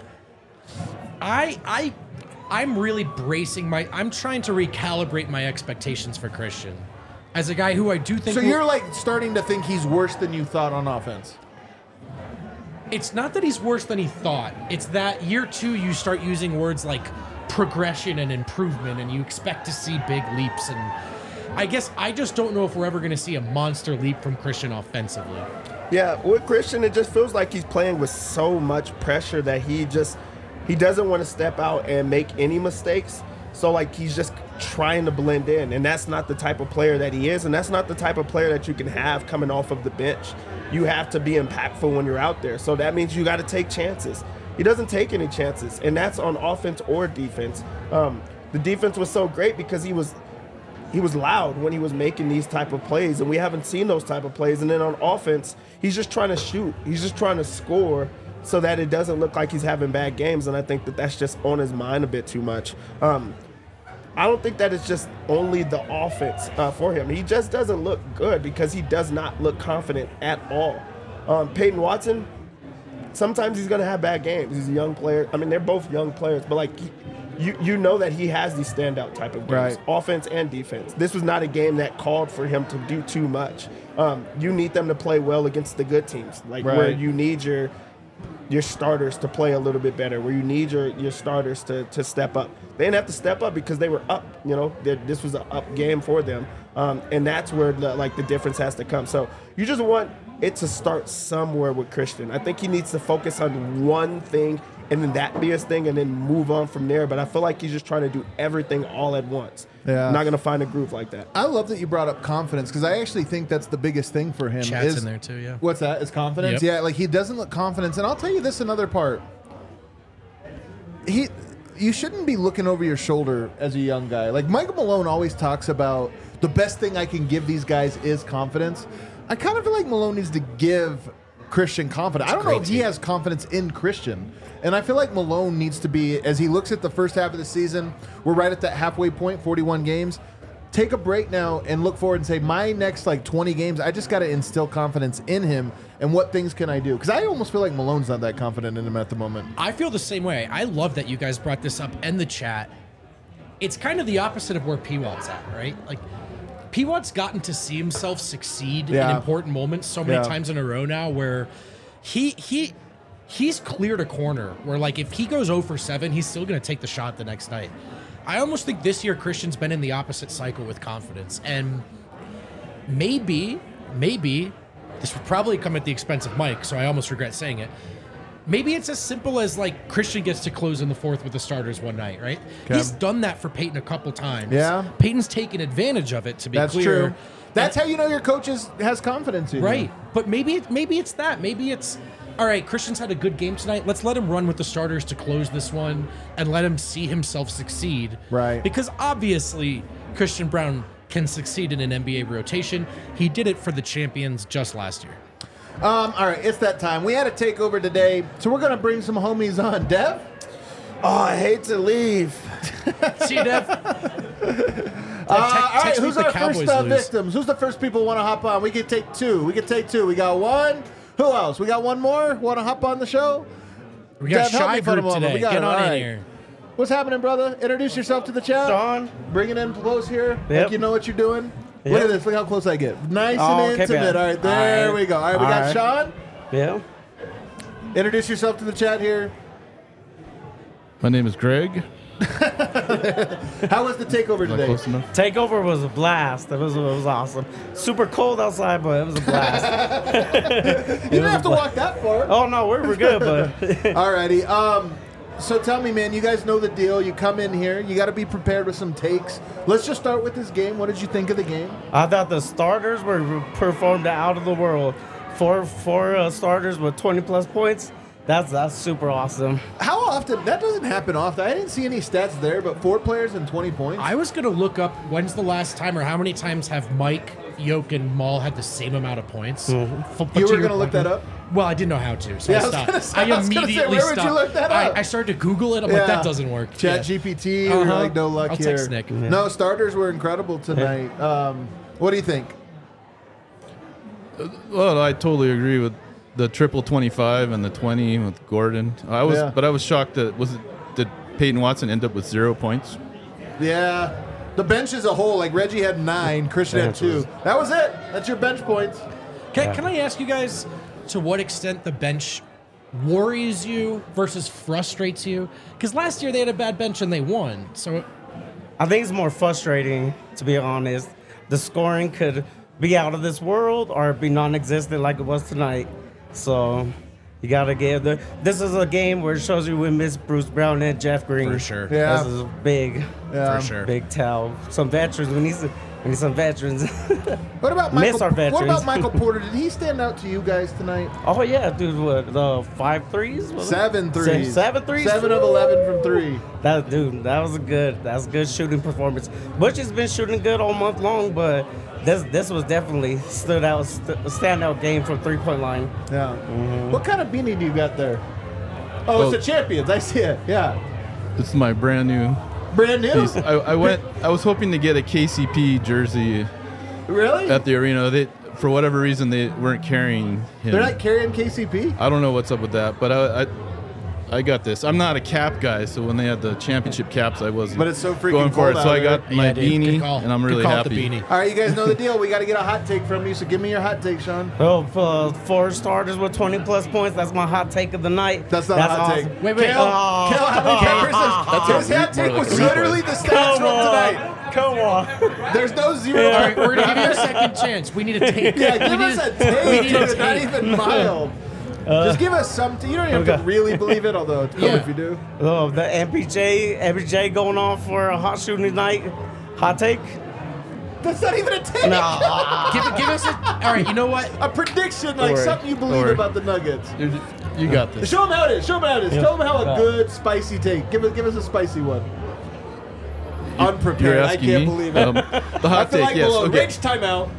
I I I'm really bracing my. I'm trying to recalibrate my expectations for Christian as a guy who I do think. So will- you're like starting to think he's worse than you thought on offense. It's not that he's worse than he thought. It's that year two, you start using words like progression and improvement, and you expect to see big leaps. And I guess I just don't know if we're ever going to see a monster leap from Christian offensively. Yeah, with Christian, it just feels like he's playing with so much pressure that he just he doesn't want to step out and make any mistakes. So like he's just trying to blend in, and that's not the type of player that he is, and that's not the type of player that you can have coming off of the bench. You have to be impactful when you're out there. So that means you got to take chances. He doesn't take any chances, and that's on offense or defense. Um, the defense was so great because he was he was loud when he was making these type of plays, and we haven't seen those type of plays. And then on offense, he's just trying to shoot. He's just trying to score so that it doesn't look like he's having bad games. And I think that that's just on his mind a bit too much. Um, I don't think that it's just only the offense uh, for him. He just doesn't look good because he does not look confident at all. Um, Peyton Watson, sometimes he's going to have bad games. He's a young player. I mean, they're both young players, but like he, you you know that he has these standout type of games, Right. offense and defense. This was not a game that called for him to do too much. Um, you need them to play well against the good teams, like where Right. you need your your starters to play a little bit better, where you need your, your starters to, to step up. They didn't have to step up because they were up. You know, They're, this was an up game for them, um, and that's where the, like the difference has to come. So you just want it to start somewhere with Christian. I think he needs to focus on one thing and then that be his thing and then move on from there. But I feel like he's just trying to do everything all at once. Yeah. Not going to find a groove like that. I love that you brought up confidence because I actually think that's the biggest thing for him. Chat's is, in there too, yeah. What's that? Is confidence? Yep. Yeah, like he doesn't look confident. And I'll tell you this another part. He, you shouldn't be looking over your shoulder as a young guy. Like Michael Malone always talks about the best thing I can give these guys is confidence. I kind of feel like Malone needs to give Christian confidence. I don't know great if he team. has confidence in Christian. And I feel like Malone needs to be, as he looks at the first half of the season, we're right at that halfway point, forty-one games. Take a break now and look forward and say, my next like twenty games, I just got to instill confidence in him and what things can I do? Because I almost feel like Malone's not that confident in him at the moment. I feel the same way. I love that you guys brought this up in the chat. It's kind of the opposite of where P Wad's at, right? Like, P Wad's gotten to see himself succeed Yeah. in important moments so many Yeah. times in a row now where he he he's cleared a corner where, like, if he goes zero for seven, he's still going to take the shot the next night. I almost think this year Christian's been in the opposite cycle with confidence. And maybe, maybe, this would probably come at the expense of Mike, so I almost regret saying it. Maybe it's as simple as, like, Christian gets to close in the fourth with the starters one night, right? Okay. He's done that for Peyton a couple times. Yeah. Peyton's taken advantage of it, to be That's clear. true. That's how you know your coach is, has confidence in you. Right. But maybe it, maybe it's that. Maybe it's, all right, Christian's had a good game tonight. Let's let him run with the starters to close this one and let him see himself succeed. Right. Because obviously Christian Braun can succeed in an N B A rotation. He did it for the champions just last year. Um, all right, it's that time. We had a takeover today, so we're going to bring some homies on. Dev? Oh, I hate to leave. See you, Dev. Uh, all right, who's our first uh, victims? Who's the first people who want to hop on? We can take two. We can take two. We got one. Who else? We got one more? Want to hop on the show? We got Dev, help Shy me for a Group moment. today. We got Get it. on All in right. here. What's happening, brother? Introduce yourself to the chat. Sean. Bring it in close here. Like Yep. you know what you're doing. Yep. Look at this. Look how close I get. Nice Oh, and okay, intimate. man. All right, there All right. we go. All right, we All got right. Sean. Yeah. Introduce yourself to the chat here. My name is Greg. How was the takeover Am I today? close enough? Takeover was a blast. It was it was awesome. Super cold outside, but it was a blast. You don't have to walk that far. Oh no, we're we're good, but Alrighty. Um, so tell me, man, you guys know the deal. You come in here, you got to be prepared with some takes. Let's just start with this game. What did you think of the game? I thought the starters were performed out of the world. Four four uh, starters with twenty plus points. That's that's super awesome. How often? That doesn't happen often. I didn't see any stats there, but four players and twenty points. I was going to look up when's the last time or how many times have Mike, Yoke, and Maul had the same amount of points. Mm-hmm. F- but You to were your gonna look point- that up? Well, I didn't know how to, so Yeah, I I was stopped. gonna say- I I was gonna say, immediately where would you stopped. look that up? I, I started to Google it. I'm Yeah. like, that doesn't work. Chat Yeah. G P T. We were Uh-huh. like, no luck I'll here. text Nick. No, starters were incredible tonight. Um, what do you think? Well, I totally agree with the triple twenty-five and the twenty with Gordon. I was, Yeah. but I was shocked that was it did Peyton Watson end up with zero points? Yeah. The bench as a whole, like Reggie had nine, Christian had Bench two. was- That was it. That's your bench points. Can, can I ask you guys to what extent the bench worries you versus frustrates you? Because last year they had a bad bench and they won. So I think it's more frustrating, to be honest. The scoring could be out of this world or be non-existent like it was tonight. So you gotta give the. This is a game where it shows you we miss Bruce Brown and Jeff Green. For sure. Yeah. This is big, Yeah. For sure. big tell. Some veterans. We need to We need some veterans. What about Miss Michael? our What veterans. about Michael Porter? Did he stand out to you guys tonight? Oh yeah, dude. What the five threes? Was it? Seven Se- threes. Seven threes. Seven of eleven from three. That dude, that was a good. That was a good shooting performance. Butch has been shooting good all month long, but this this was definitely stood out, st- a standout game from three point line. Yeah. Mm-hmm. What kind of beanie do you got there? Oh, Oh. it's the champions. I see it. Yeah. This is my brand new Brand new. piece. I, I went. I was hoping to get a K C P jersey Really? at the arena. They, for whatever reason, they weren't carrying him. They're not carrying K C P. I don't know what's up with that, but I, I, I got this. I'm not a cap guy, so when they had the championship caps, I wasn't. But it's so freaking going for cold it. So out I got there. my Yeah, dude, good beanie, call. and I'm Good really call with happy. the beanie. All right, you guys know the deal. We got to get a hot take from you. So give me your hot take, Sean. Well, for four starters with twenty plus points, that's my hot take of the night. That's not a hot awesome. take. Wait, wait. Kale, Oh. Kale, how many cappers is That's a His hot re- take more was like a literally the stats Come from on. tonight. Come on. There's no zero. All right, we're gonna give you a second chance. We need a take. Yeah, we give need us a we take, need a dude. Not take. even mild. Just give us something. You don't even have to Okay. really believe it, although it's cool Yeah. if you do. Oh, the M P J, M P J going off for a hot shooting night. Hot take? That's not even a take. No. Give, give us a. All right, you know what? A prediction, like worry. something you Don't believe worry. about the Nuggets. You're just- you got this. Show them how it is. Show them how it is. Yeah. Tell them how a Yeah. good spicy take. Give us, give us a spicy one. You're Unprepared. I asking can't me? believe it. Um, the I hot feel take, like yes. below. Okay. Rage timeout.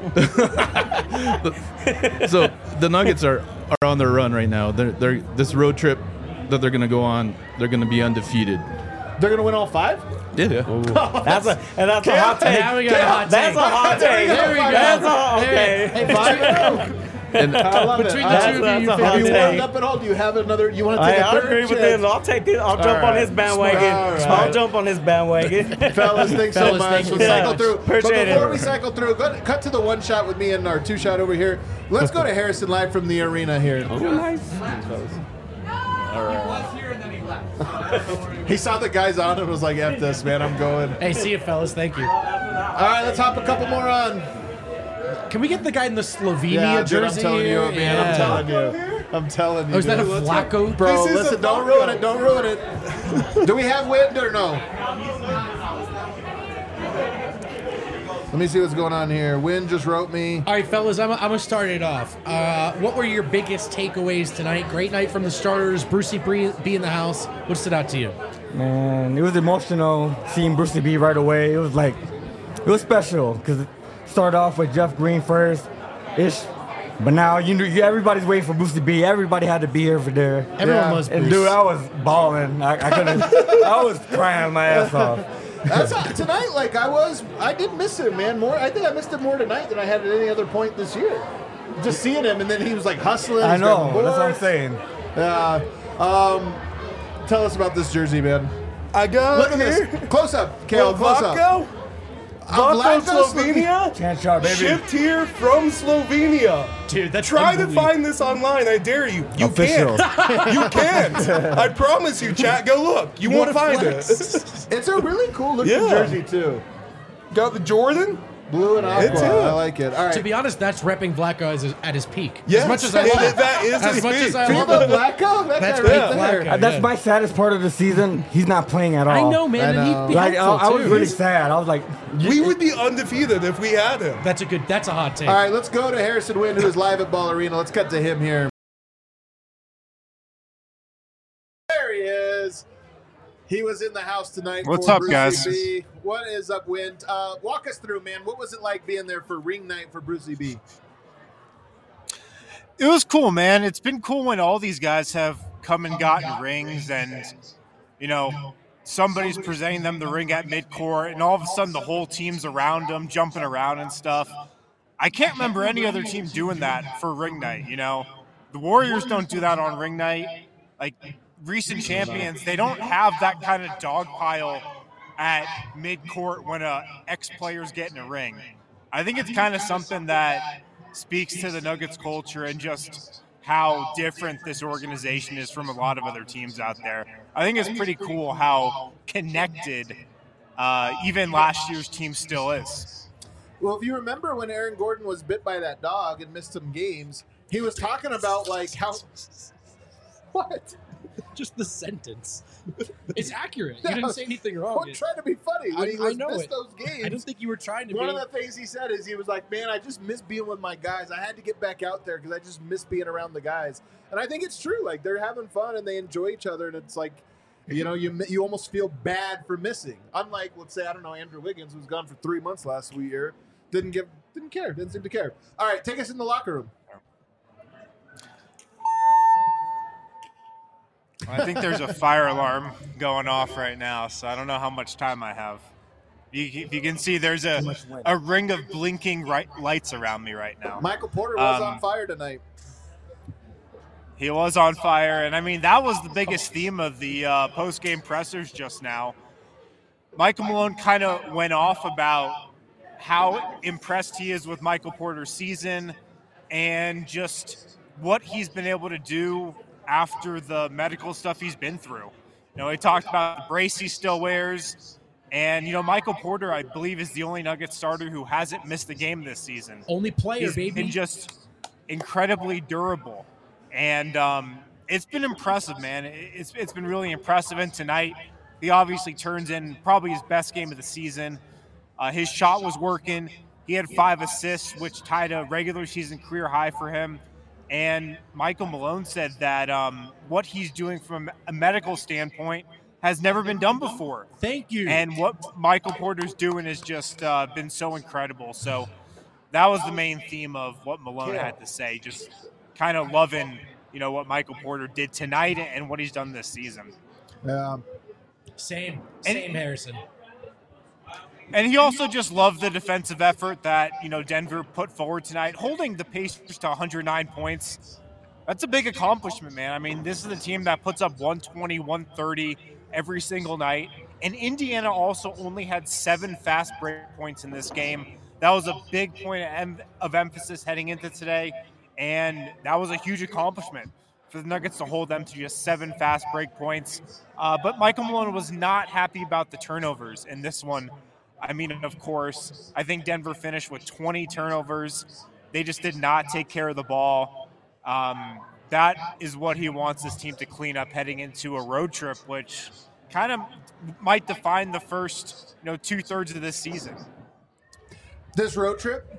So the Nuggets are, are on their run right now. They're they're this road trip that they're gonna go on. They're gonna be undefeated. They're gonna win all five. Yeah. That's a and that's a hot take. Now we got a hot That's take. a hot take. There we go. That's a There- okay. Hey, Five between, and oh. And I love between it. the I- two of That's you, you a hot Have you figure take. warmed up at all? Do you have another? You want to I, take a I third agree with chance? him. I'll take it. I'll jump All on right. his bandwagon. All right. I'll jump on his bandwagon. Fellas, thanks so Fellas, much. thank you We'll so cycle much. through. Appreciate but before it. we cycle through, go, cut to the one shot with me and our two shot over here. Let's go to Harrison live from the arena here. Oh, nice. He saw the guys on and was like, F this, man, I'm going. Hey, see you, fellas. Thank you. All right, let's hop a couple more on. Can we get the guy in the Slovenia Yeah, dude, I'm jersey? telling you, man, Yeah. I'm telling you. I'm telling you. Oh, is that a dude. Flacco? Bro, This is listen, a don't Flacco. ruin it. Don't ruin it. Do we have wind or no? Let me see what's going on here. Wind just wrote me. All right, fellas, I'm, I'm going to start it off. Uh, what were your biggest takeaways tonight? Great night from the starters. Brucey Bree be in the house. What stood out to you? Man, it was emotional seeing Brucey B right away. It was like, it was special because it started off with Jeff Green first, ish. But now you know you- everybody's waiting for Brucey B. Everybody had to be here for there. Everyone Yeah. loves And Bruce. dude, I was balling. I, I couldn't. I was crying my ass off. That's how, tonight. Like I was, I did miss him, man. More, I think I missed him more tonight than I had at any other point this year. Just seeing him, and then he was like hustling. I he's grabbing know. That's what I'm boards. saying. Yeah. Um, tell us about this jersey, man. I got Look at here. this. Close up, Kale. Close up. Vlatko, Uh, Vlatko, Vlatko, Slovenia. Chance shot, baby. Shipped here from Slovenia. Dude, that's Try to unbelievable. find this online. I dare you. You Official. can't. You can't. I promise you, chat. Go look. You What won't a find flex. it. It's a really cool looking Yeah. jersey too. Got the Jordan. Blue and aqua. It's it. I like it. All right. To be honest, that's repping Flacco as his, at his peak. Yes, As much as I it- love it- that is as his much peak. as I Viva love him. Blacko? That That's guy peak right there. Flacco. Uh, That's yeah. my saddest part of the season. He's not playing at all. I know, man, I and know. he'd be Like I, helpful I was too. really sad. I was like, We would be undefeated if we had him. That's a good. That's a hot take. All right, let's go to Harrison Wind, who is live at Ball Arena. Let's cut to him here. There he is. He was in the house tonight. What's for up, Brucey guys? B. What is up, Wind? Uh, walk us through, man. What was it like being there for ring night for Brucey B? It was cool, man. It's been cool when all these guys have come and gotten rings and, you know, somebody's presenting them the ring at midcourt and all of a sudden the whole team's around them, jumping around and stuff. I can't remember any other team doing that for ring night, you know. The Warriors don't do that on ring night. Like, recent champions, they don't have that kind of dog pile at midcourt when a ex-player's getting a ring. I think it's kind of something that speaks to the Nuggets culture and just how different this organization is from a lot of other teams out there. I think it's pretty cool how connected uh, even last year's team still is. Well, if you remember when Aaron Gordon was bit by that dog and missed some games, he was talking about like how. What? just the sentence. It's accurate. You didn't say anything wrong. I'm trying to be funny. When I, he I was know missed it. those games, I don't think you were trying to one be. of the things he said is he was like, man, I just miss being with my guys. I had to get back out there because I just miss being around the guys. And I think it's true. Like, they're having fun and they enjoy each other. And it's like, you know, you you almost feel bad for missing. Unlike, let's say, I don't know, Andrew Wiggins, who's gone for three months last year, didn't give, didn't care, didn't seem to care. All right, take us in the locker room. I think there's a fire alarm going off right now, so I don't know how much time I have. You, if you can see, there's a, a ring of blinking right, lights around me right now. Michael Porter was Um, on fire tonight. He was on fire, and I mean, that was the biggest theme of the uh, post-game pressers just now. Michael Malone kind of went off about how impressed he is with Michael Porter's season and just what he's been able to do after the medical stuff he's been through. You know, he talked about the brace he still wears, and, you know, Michael Porter, I believe, is the only Nuggets starter who hasn't missed a game this season. Only player, He's baby. been just incredibly durable. And um, it's been impressive, man. It's it's been really impressive. And tonight, he obviously turns in probably his best game of the season. Uh, his shot was working. He had five assists, which tied a regular season career high for him. And Michael Malone said that um, what he's doing from a medical standpoint has never been done before. Thank you. And what Michael Porter's doing has just uh, been so incredible. So that was the main theme of what Malone had to say, just kind of loving, you know, what Michael Porter did tonight and what he's done this season. Yeah. Same. Same, Harrison. And he also just loved the defensive effort that, you know, Denver put forward tonight, holding the Pacers to one hundred nine points. That's a big accomplishment, man. I mean, this is a team that puts up one twenty, one thirty every single night. And Indiana also only had seven fast break points in this game. That was a big point of, em- of emphasis heading into today. And that was a huge accomplishment for the Nuggets to hold them to just seven fast break points. Uh, but Michael Malone was not happy about the turnovers in this one. I mean, of course, I think Denver finished with twenty turnovers. They just did not take care of the ball. Um, that is what he wants this team to clean up heading into a road trip, which kind of might define the first, you know, two thirds of this season. This road trip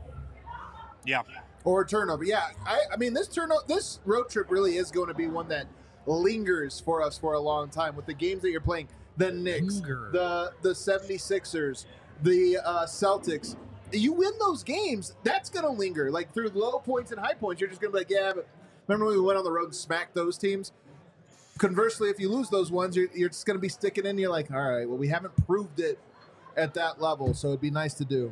Yeah. or turnover. Yeah, I, I mean, this turno- this road trip really is going to be one that lingers for us for a long time with the games that you're playing. The Knicks, Linger. the the seventy-sixers, the uh, Celtics. You win those games, that's going to linger. Like, through low points and high points, you're just going to be like, yeah, but remember when we went on the road and smacked those teams? Conversely, if you lose those ones, you're, you're just going to be sticking in. You're like, all right, well, we haven't proved it at that level, so it'd be nice to do.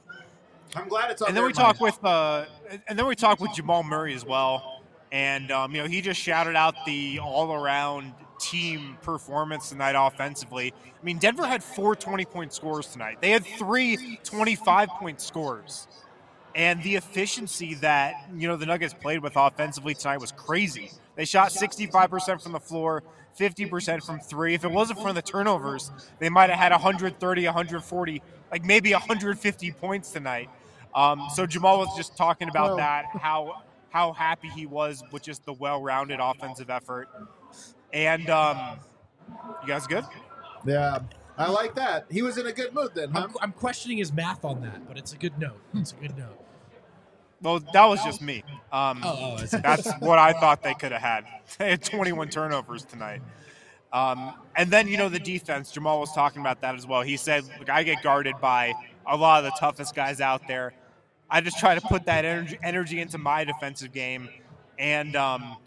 I'm glad it's on And then their we talk mind. with uh, and then we talk with Jamal Murray as well. And um, you know, he just shouted out the all-around team performance tonight offensively. I mean, Denver had four twenty-point scores tonight. They had three twenty-five-point scores. And the efficiency that, you know, the Nuggets played with offensively tonight was crazy. They shot sixty-five percent from the floor, fifty percent from three. If it wasn't for the turnovers, they might have had one hundred thirty, one hundred forty, like maybe one hundred fifty points tonight. Um, so Jamal was just talking about Well- that, how how happy he was with just the well-rounded offensive effort. And um, you guys good? Yeah, I like that. He was in a good mood then, huh? I'm, I'm questioning his math on that, but it's a good note. It's a good note. Well, that was just me. Um, Oh, oh, I see. that's what I thought they could have had. They had twenty-one turnovers tonight. Um, and then, you know, the defense, Jamal was talking about that as well. He said, look, I get guarded by a lot of the toughest guys out there. I just try to put that energy, energy into my defensive game. And um,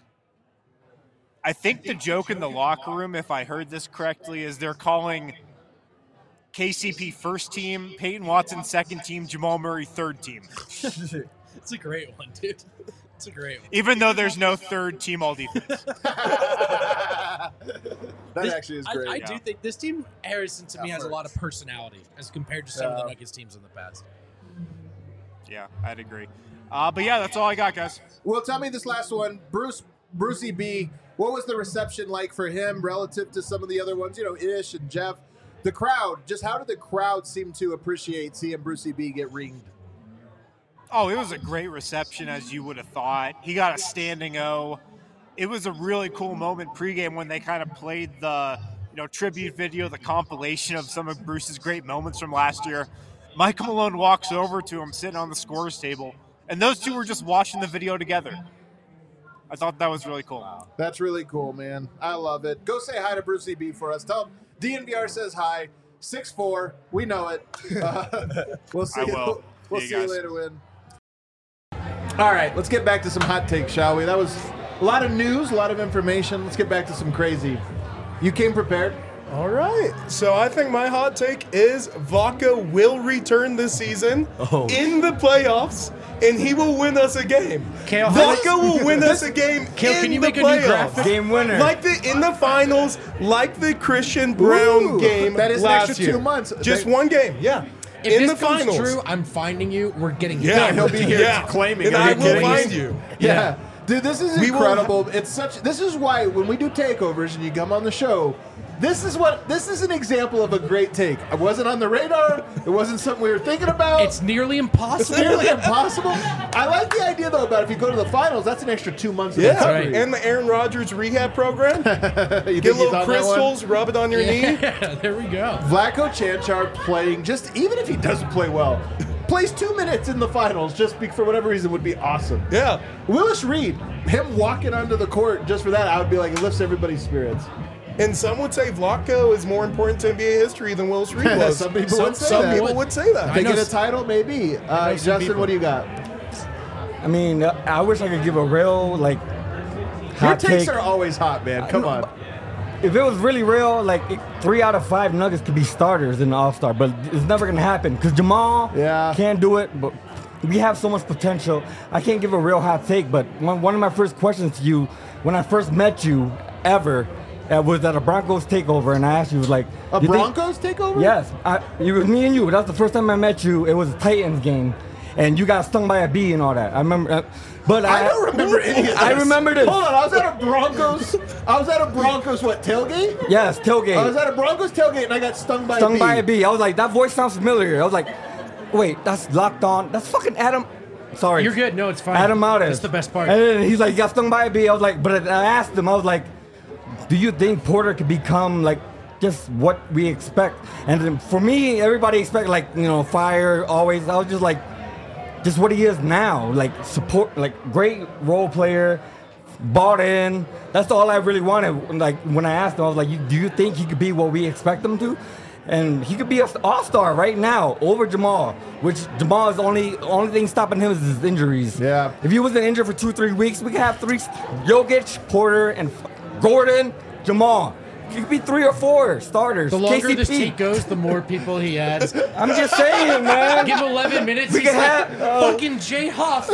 I think the joke in the locker room, if I heard this correctly, is they're calling K C P first team, Peyton Watson second team, Jamal Murray third team. It's a great one, dude. It's a great one. Even though there's no third team all defense. That This- actually is I- great. I, yeah. do think this team, Harrison, to me, That has a lot of works. personality as compared to some of Yeah. the Nuggets teams in the past. Yeah, I'd agree. Uh, but yeah, that's all I got, guys. Well, tell me this last one, Bruce Brucey B. What was the reception like for him relative to some of the other ones? You know, Ish and Jeff. The crowd. Just how did the crowd seem to appreciate seeing Brucey B get ringed? Oh, it was a great reception, as you would have thought. He got a standing O. it was a really cool moment pregame when they kind of played the you know tribute video, the compilation of some of Bruce's great moments from last year. Michael Malone walks over to him sitting on the scorer's table, and those two were just watching the video together. I thought that was really cool. Wow. That's really cool, man. I love it. Go say hi to Brucey B for us. Tell him D N V R says hi. six four, we know it. Uh, we'll see I you, will. we'll See see you you guys. later, Win. All right, let's get back to some hot takes, shall we? That was a lot of news, a lot of information. Let's get back to some crazy. You came prepared? All right. So I think my hot take is Vaca will return this season Oh. in the playoffs, and he will win us a game. Kale, how Vaca will win us a game Kale, in can you the make a new playoffs. graphic? Game winner. Like the in the finals, like the Christian Brown Ooh, game that is an last extra year. two months. Just They- one game, yeah. If in this the comes finals. true, I'm finding you. We're getting Yeah, he'll be here yeah. claiming and it. I Are you will kidding find me? you. Yeah. Dude, this is We will incredible. It's such this is why when we do takeovers and you come on the show, this is what this is an example of a great take. It wasn't on the radar. It wasn't something we were thinking about. It's nearly impossible. It's nearly impossible. I like the idea though about if you go to the finals, that's an extra two months of Yeah, recovery. and the Aaron Rodgers rehab program. You Get think a he's little on that one? crystals, rub it on your knee. Yeah, there we go. Vlatko Chanchar playing, just even if he doesn't play well, plays two minutes in the finals just be, for whatever reason would be awesome. Yeah. Willis Reed, him walking onto the court just for that, I would be like, it lifts everybody's spirits. And some would say Vlatko is more important to N B A history than Willis Reed was. Some people Some- would say Some that. people would say that. I They know get a s- title, maybe. Uh, some Justin, people. what do you got? I mean, uh, I wish I could give a real like Your hot takes take. are always hot, man. Come on. If it was really real, like it, three out of five Nuggets could be starters in the All Star, but it's never gonna happen because Jamal Yeah. can't do it. But we have so much potential. I can't give a real hot take, but one, one of my first questions to you when I first met you ever uh, was at a Broncos takeover, and I asked you was like, A "You think-" Broncos takeover? Yes, I, it was me and you. That was the first time I met you. It was a Titans game, and you got stung by a bee and all that. I remember, uh, but I, I don't remember any of this. I remember this. Hold on, I was at a Broncos. I was at a Broncos what tailgate? Yes, tailgate. I was at a Broncos tailgate and I got stung by stung a bee. by a bee. I was like, that voice sounds familiar. I was like, wait, that's Locked On. That's fucking Adam. Sorry. You're good. No, it's fine. Adam Aldes. That's the best part. And then he's like, you got stung by a bee. I was like, but I asked him, I was like, do you think Porter could become like just what we expect? And then for me, everybody expect like, you know, fire always. I was just like, just what he is now. Like support, like great role player, bought in. That's all I really wanted. Like when I asked him, I was like, you, do you think he could be what we expect him to? And he could be an all-star right now over Jamal, which Jamal is only only thing stopping him is his injuries. Yeah. If he wasn't injured for two, three weeks, we could have three: Jokic, Porter, and Gordon, Jamal. He could be three or four starters. The longer K C P. this take goes, the more people he adds. I'm just saying, man. Give him eleven minutes. We he's can like, have- uh, fucking Jay Huff.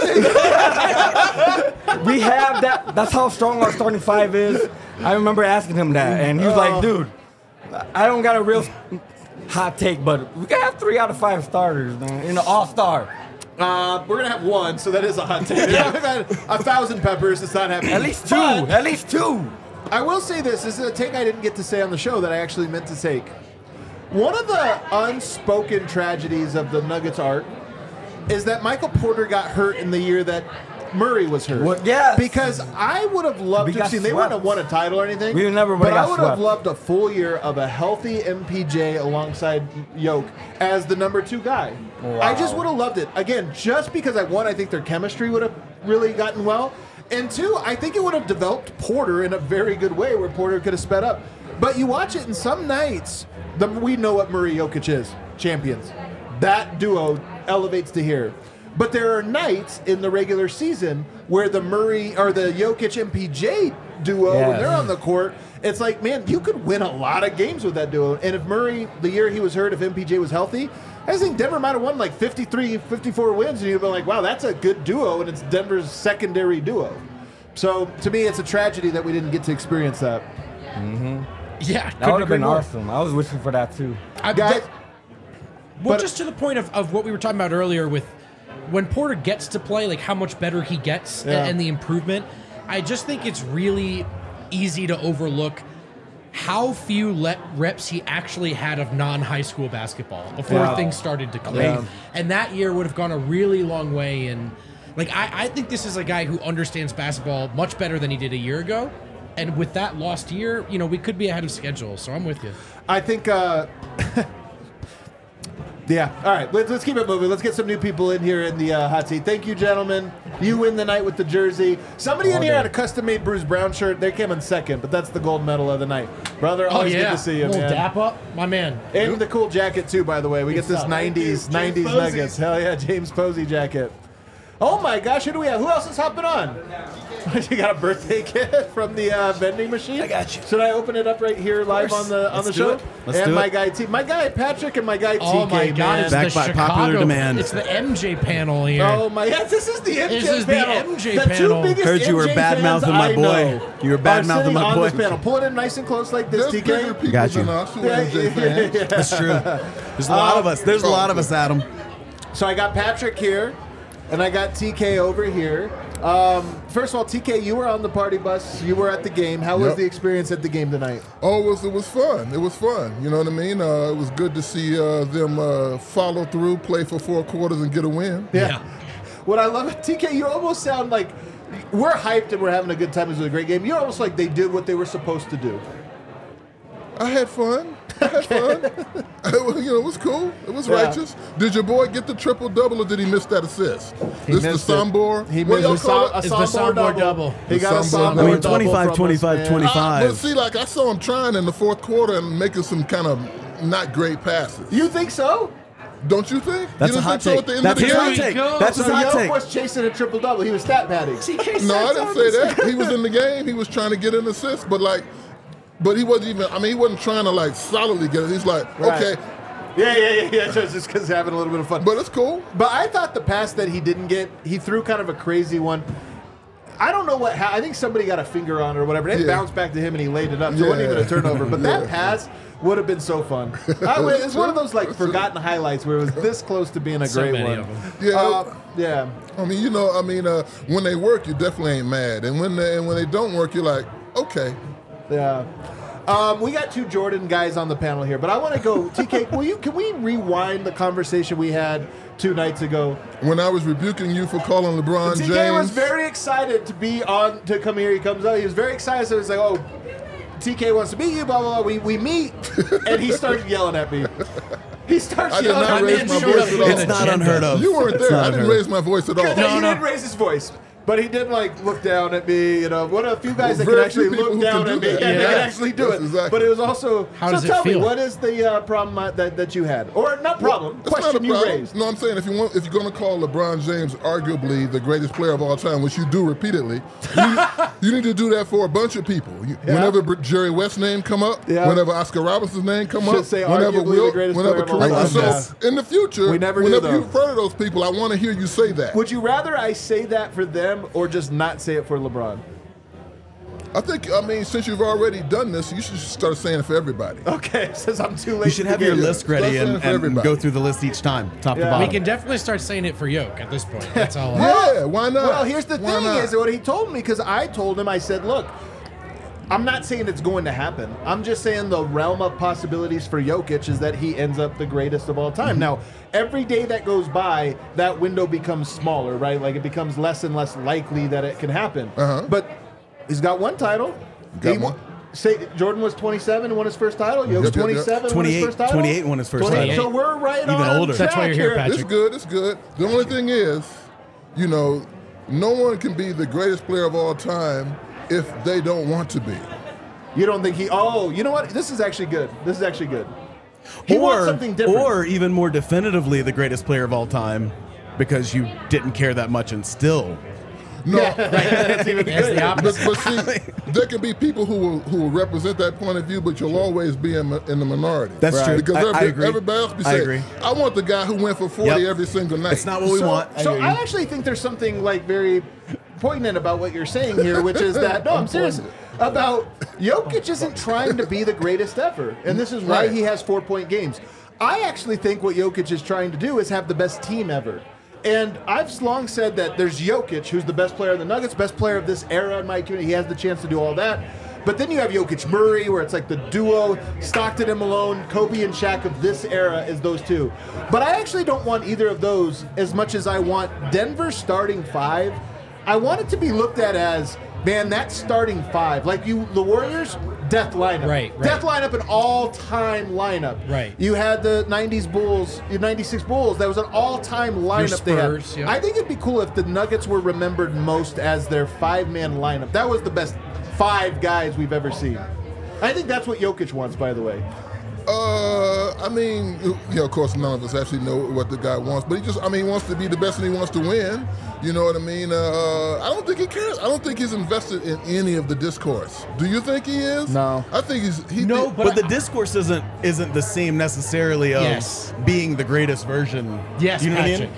We have that. That's how strong our starting five is. I remember asking him that, and he was like, "Dude, I don't got a real hot take, but we can have three out of five starters, man, in the All Star. Uh, we're gonna have one, so that is a hot take. I've had a thousand peppers. It's not happening. At least two. But At least two. I will say this. This is a take I didn't get to say on the show that I actually meant to take. One of the unspoken tragedies of the Nuggets arc is that Michael Porter got hurt in the year that Murray was hurt. What- yes. Because I would have loved We to have got seen. They wouldn't have swept. won a title or anything. We never But would've I got would have swept. loved a full year of a healthy M P J alongside Yoke as the number two guy. I just would have loved it. Again, just because I one, I think their chemistry would have really gotten well. And two, I think it would have developed Porter in a very good way where Porter could have sped up. But you watch it, and some nights, the, we know what Murray Jokic is. Champions. That duo elevates to here. But there are nights in the regular season where the Murray or the Jokic M P J duo, when Yes. they're on the court, it's like, man, you could win a lot of games with that duo. And if Murray, the year he was hurt, if M P J was healthy, I think Denver might have won like fifty-three, fifty-four wins, and you'd be like, wow, that's a good duo, and it's Denver's secondary duo. So to me, it's a tragedy that we didn't get to experience that. Yeah, That would have been more. awesome. I was wishing for that too. I, Guys, that- well, but- just to the point of, of what we were talking about earlier with when Porter gets to play, like how much better he gets Yeah. and, and the improvement. I just think it's really easy to overlook how few let reps he actually had of non-high school basketball before Yeah. things started to click. Yeah. And that year would have gone a really long way in Like I, I think this is a guy who understands basketball much better than he did a year ago. And with that lost year, you know, we could be ahead of schedule. So I'm with you. I think, uh, yeah. All right, let's, let's keep it moving. Let's get some new people in here in the uh, hot seat. Thank you, gentlemen. You win the night with the jersey. Somebody in here had a custom-made Bruce Brown shirt. They came in second, but that's the gold medal of the night. Brother, Oh, always yeah. good to see you, Little man. dap up, my man. And the cool jacket, too, by the way. We get this nineties, nineties Posey. Nuggets. Hell yeah, James Posey jacket. Oh, my gosh, who do we have? Who else is hopping on? You got a birthday kit from the uh, vending machine? I got you. Should I open it up right here live on the on Let's the do show? it. Let's and do my it. guy T, my guy Patrick and my guy Oh T K. my God! man. It's Back the by Chicago. popular demand. It's the M J panel here. Oh my! Yes, this is the M J This is the panel. M J the panel. Two biggest Heard you were M J bad-mouthing fans my I boy. know You were are bad-mouthing sitting my on boy. this panel. Pull it in nice and close like this, There's T bigger K. people Got you. than us who are M J fans. That's true. There's a lot of us. There's a lot of us, Adam. So I got Patrick here, and I got T K over here. Um, first of all, T K, you were on the party bus. You were at the game. How was Yep. the experience at the game tonight? Oh, it was, it was fun. It was fun. You know what I mean? Uh, it was good to see uh, them uh, follow through, play for four quarters, and get a win. Yeah. What I love, T K, you almost sound like we're hyped and we're having a good time. It was a great game. You're almost like they did what they were supposed to do. I had fun. I had fun. It was, you know, it was cool. It was Yeah. righteous. Did your boy get the triple double, or did he miss that assist? He this missed the it. Sambor. He What missed y'all a, call Sam- a it? It's the Sambor Sambor double. double. He got a The Sambor Sambor double. I mean, double twenty-five, from us, twenty-five, man. twenty-five. Uh, but see, like I saw him trying in the fourth quarter and making some kind of not great passes. You think so? Don't you think? That's you a didn't hot think so take. at the end That's of the his game? hot Here take. we go. That's his So hot Yoke take. was chasing a triple double. He was stat padding. No, I didn't say that. He was in the game. He was trying to get an assist, but like, but he wasn't even. I mean, he wasn't trying to like solidly get it. He's like, Right. okay, Yeah, yeah, yeah, yeah. Just just because having a little bit of fun. but it's cool. But I thought the pass that he didn't get, he threw kind of a crazy one. I don't know what. I think somebody got a finger on it or whatever. It Yeah. bounced back to him and he laid it up. So it wasn't Yeah. even a turnover. But that Yeah. pass would have been so fun. I, it's one of those like forgotten highlights where it was this close to being a So great many one. of them. Yeah. Uh, yeah. I mean, you know, I mean, uh, when they work, you definitely ain't mad, and when they and when they don't work, you're like, okay. Yeah. Um, we got two Jordan guys on the panel here, but I want to go. T K, will you? Can we rewind the conversation we had two nights ago? When I was rebuking you for calling LeBron T K James, was very excited to be on to come here. He comes out. He was very excited. So he's like, "Oh, T K wants to meet you." Blah blah blah. We we meet, and he started yelling at me. He starts I did yelling not at me. raise and my showed voice up at in all. the It's not agenda. unheard of. you weren't It's there. not I didn't unheard of. raise my voice at all. He didn't raise his voice, but he did like look down at me. You know, one of the few guys that can Very actually few people look who down can at do me that. and they Yeah. can actually do Yes, it. exactly. But it was also. How so does it tell me, feel? what is the uh, problem uh, that that you had, or not problem? It's not question a you problem. raised? No, I'm saying if you want, if you're going to call LeBron James arguably the greatest player of all time, which you do repeatedly, you need, you need to do that for a bunch of people. You, Yeah. Whenever Br- Jerry West's name come up, Yeah. whenever Oscar Robinson's name come Should up, say whenever arguably Will, the greatest whenever player of all Kareem. time. So in the future, We never do, whenever though. you refer to those people, I want to hear you say that. Would you rather I say that for them or just not say it for LeBron? I think, I mean, since you've already done this, you should start saying it for everybody. Okay, since I'm too late. You should to have your get- list ready Start saying and, it for and everybody. go through the list each time, top Yeah. to We bottom. can definitely start saying it for Yoke at this point. That's all. Yeah, why not? Well, here's the Why thing: not? is what he told me because I told him. I said, "Look, I'm not saying it's going to happen. I'm just saying the realm of possibilities for Jokic is that he ends up the greatest of all Mm-hmm. time." Now, every day that goes by, that window becomes smaller, right? Like it becomes less and less likely that it can happen. Uh-huh. But he's got one title. Got He- one. Say Jordan was twenty-seven and won his first title. Jokic Yep, yep, yep. twenty-seven, won his twenty-eight, first title. twenty-eight won his first twenty-eight. title. So we're right Even on older. track That's why you're here, here. Patrick. It's good. It's good. The only thing is, you know, no one can be the greatest player of all time if they don't want to be. You don't think he? Oh, you know what? This is actually good. This is actually good. He wants or, something different. or even more definitively, the greatest player of all time because you didn't care that much and still. No, That's even That's the good. but, opposite. but see, there can be people who will who will represent that point of view, but you'll always be in, in the minority. That's Right. true. Because I- I every- agree. everybody else be I saying, agree. I want the guy who went for forty Yep. every single night. It's not what we so, want. So I actually think there's something like very poignant about what you're saying here, which is that no, I'm serious about Jokic isn't trying to be the greatest ever, and this is why Right. he has four point games. I actually think what Jokic is trying to do is have the best team ever. And I've long said that there's Jokic, who's the best player of the Nuggets, best player of this era in my opinion. He has the chance to do all that. But then you have Jokic Murray, where it's like the duo, Stockton and Malone, Kobe and Shaq of this era is those two. But I actually don't want either of those as much as I want Denver starting five. I want it to be looked at as, man, that starting five. Like you, the Warriors, death lineup. Right, right. Death lineup, an all-time lineup. Right. You had the nineties Bulls, your ninety-six Bulls. That was an all-time lineup they had. Spurs, yeah. I think it'd be cool if the Nuggets were remembered most as their five-man lineup. That was the best five guys we've ever seen. I think that's what Jokic wants, by the way. Uh, I mean, you know, of course, none of us actually know what the guy wants, but he just, I mean, he wants to be the best and he wants to win. You know what I mean? Uh, I don't think he cares. I don't think he's invested in any of the discourse. Do you think he is? No. I think he's. He No, did- But, But the I- discourse isn't isn't the same necessarily of Yes. being the greatest version. Yes, you know Patrick. what I mean?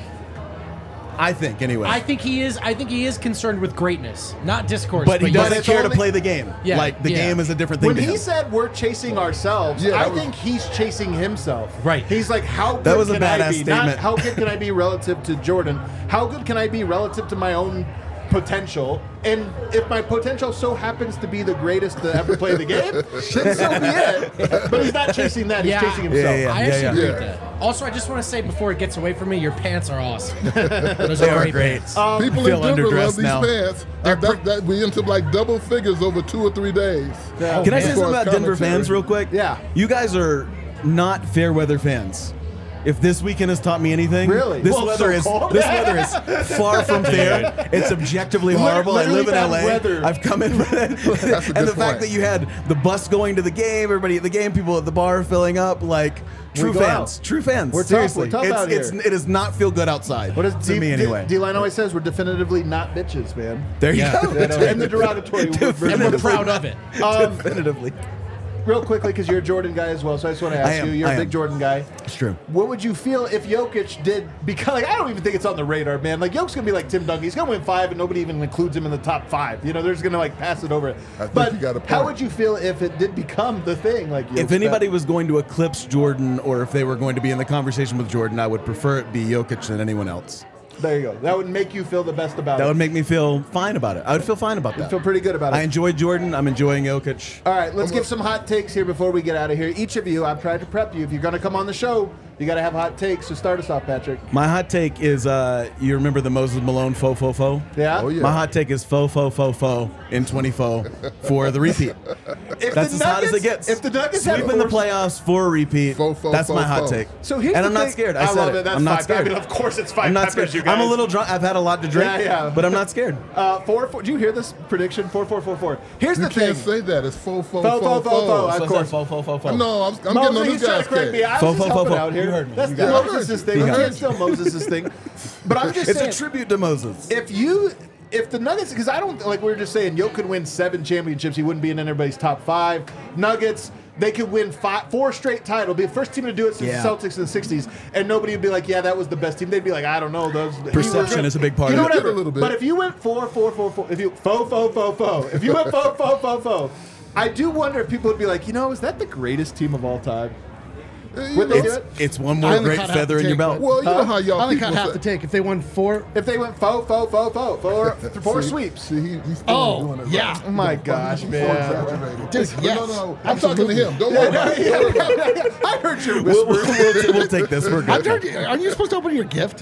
I think anyway. I think he is. I think he is concerned with greatness, not discourse. but he But doesn't it's care to only- play the game. Yeah, like the yeah. game is a different thing When to he him. said we're chasing ourselves, Yeah, I that was- think he's chasing himself. Right. He's like, how good That was a can I badass be? Not statement. how good can I be relative to Jordan? How good can I be relative to my own potential? And if my potential so happens to be the greatest to ever play the game, then so be it. But he's not chasing that. He's Yeah. chasing himself. Yeah, yeah, I actually yeah. agree Yeah. with that. Also, I just want to say before it gets away from me, your pants are awesome. Those They are are great, great. pants. Um, People feel in Denver love underdressed these now. pants. Uh, that, that we into like double figures over two or three days. Yeah. Can I man. say As far something as about Denver commentary. fans real quick? Yeah. You guys are not fair weather fans. If this weekend has taught me anything, Really? this Well, weather so is cold. this weather is far from fair. It's objectively horrible. I literally live in bad L A. weather. I've come in, That's a and good the fact point. that you had the bus going to the game, everybody at the game, people at the bar filling up, like true go fans, out. true fans. We're tough, Seriously, we're tough it's, out it's, here. it does not feel good outside. What does to D- me D- anyway? D-Line always says we're definitively not bitches, man. there you Yeah. go. You know, and the derogatory. we're- And we're we're- proud of it. Um, Definitively, real quickly, because you're a Jordan guy as well, so I just want to ask I am, you. You're I a big am. Jordan guy. it's true. What would you feel if Jokic did? Because like, I don't even think it's on the radar, man. Like Jokic's gonna be like Tim Duncan. He's gonna win five, and nobody even includes him in the top five. You know, they're just gonna like pass it over. think But you got a how point. would you feel if it did become the thing? Like If Jokic- anybody was going to eclipse Jordan, or if they were going to be in the conversation with Jordan, I would prefer it be Jokic than anyone else. there you go. That would make you feel the best about That it. would make me feel fine about it. I would feel fine about that. feel pretty good about it. I enjoy Jordan. I'm enjoying Jokic. All right, let's give some hot takes here before we get out of here. Each of you, I've tried to prep you. If you're going to come on the show, you got to have hot takes. So start us off, Patrick. My hot take is, uh, you remember the Moses Malone faux faux faux? Yeah? Oh, yeah. My hot take is faux faux faux faux in twenty faux for the repeat. If That's the as hot as Nuggets- it gets. If the Nuggets had Sweep in the four- playoffs for a repeat. Faux, faux, That's my faux, hot faux. take. So here's and the I'm not thing- scared. I, I said love it. it. That's I'm not five. scared. I mean, of course it's five I'm not peppers, scared. you guys. I'm a little drunk. I've had a lot to drink. Yeah, yeah. But I'm not scared. Uh, four, four. Do you hear this prediction? Four, four, four, four. Here's You the thing. can't say that. It's faux, faux, Faux, faux, faux, faux, faux. faux. Of course. Faux faux faux faux. No, I'm, I'm Moses, getting on he's this trying guy's to correct me. case. I was Faux, just faux, helping faux, out faux. here. You heard me. That's You the got it. Moses' He thing. heard You you. can't steal Moses' thing. But I'm just It's saying. a tribute to Moses. If you, if the Nuggets, because I don't like we were just saying, Jokic could win seven championships, he wouldn't be in anybody's top five. Nuggets, they could win five, four straight titles, be the first team to do it since Yeah. the Celtics in the sixties, and nobody would be like, yeah, that was the best team. They'd be like, I don't know, those Perception is a big part you of know, it. whatever. A little bit. But if you went four, four, four, four, if you faux, faux, faux, faux, if you went faux, faux, faux, faux, I do wonder if people would be like, you know, is that the greatest team of all time? Uh, you Would they know, do It's, it? it's one I more only great caught half feather the in your take, belt. Well, you know how I y'all only people got half say. the take. If they won four, If they went faux, faux, faux, faux, four, four See, sweeps. See, he, he's still Oh, doing it. yeah. Right. Oh my gosh, He's man. So exaggerated. Dude, No, yes. no, no. I'm talking to him. Don't Yeah, worry no, about it. yeah, Don't worry about it. yeah, yeah. I heard your We'll, whisper. we'll, we'll, we'll take this. We're I'm good. trying to- are you supposed to open your gift?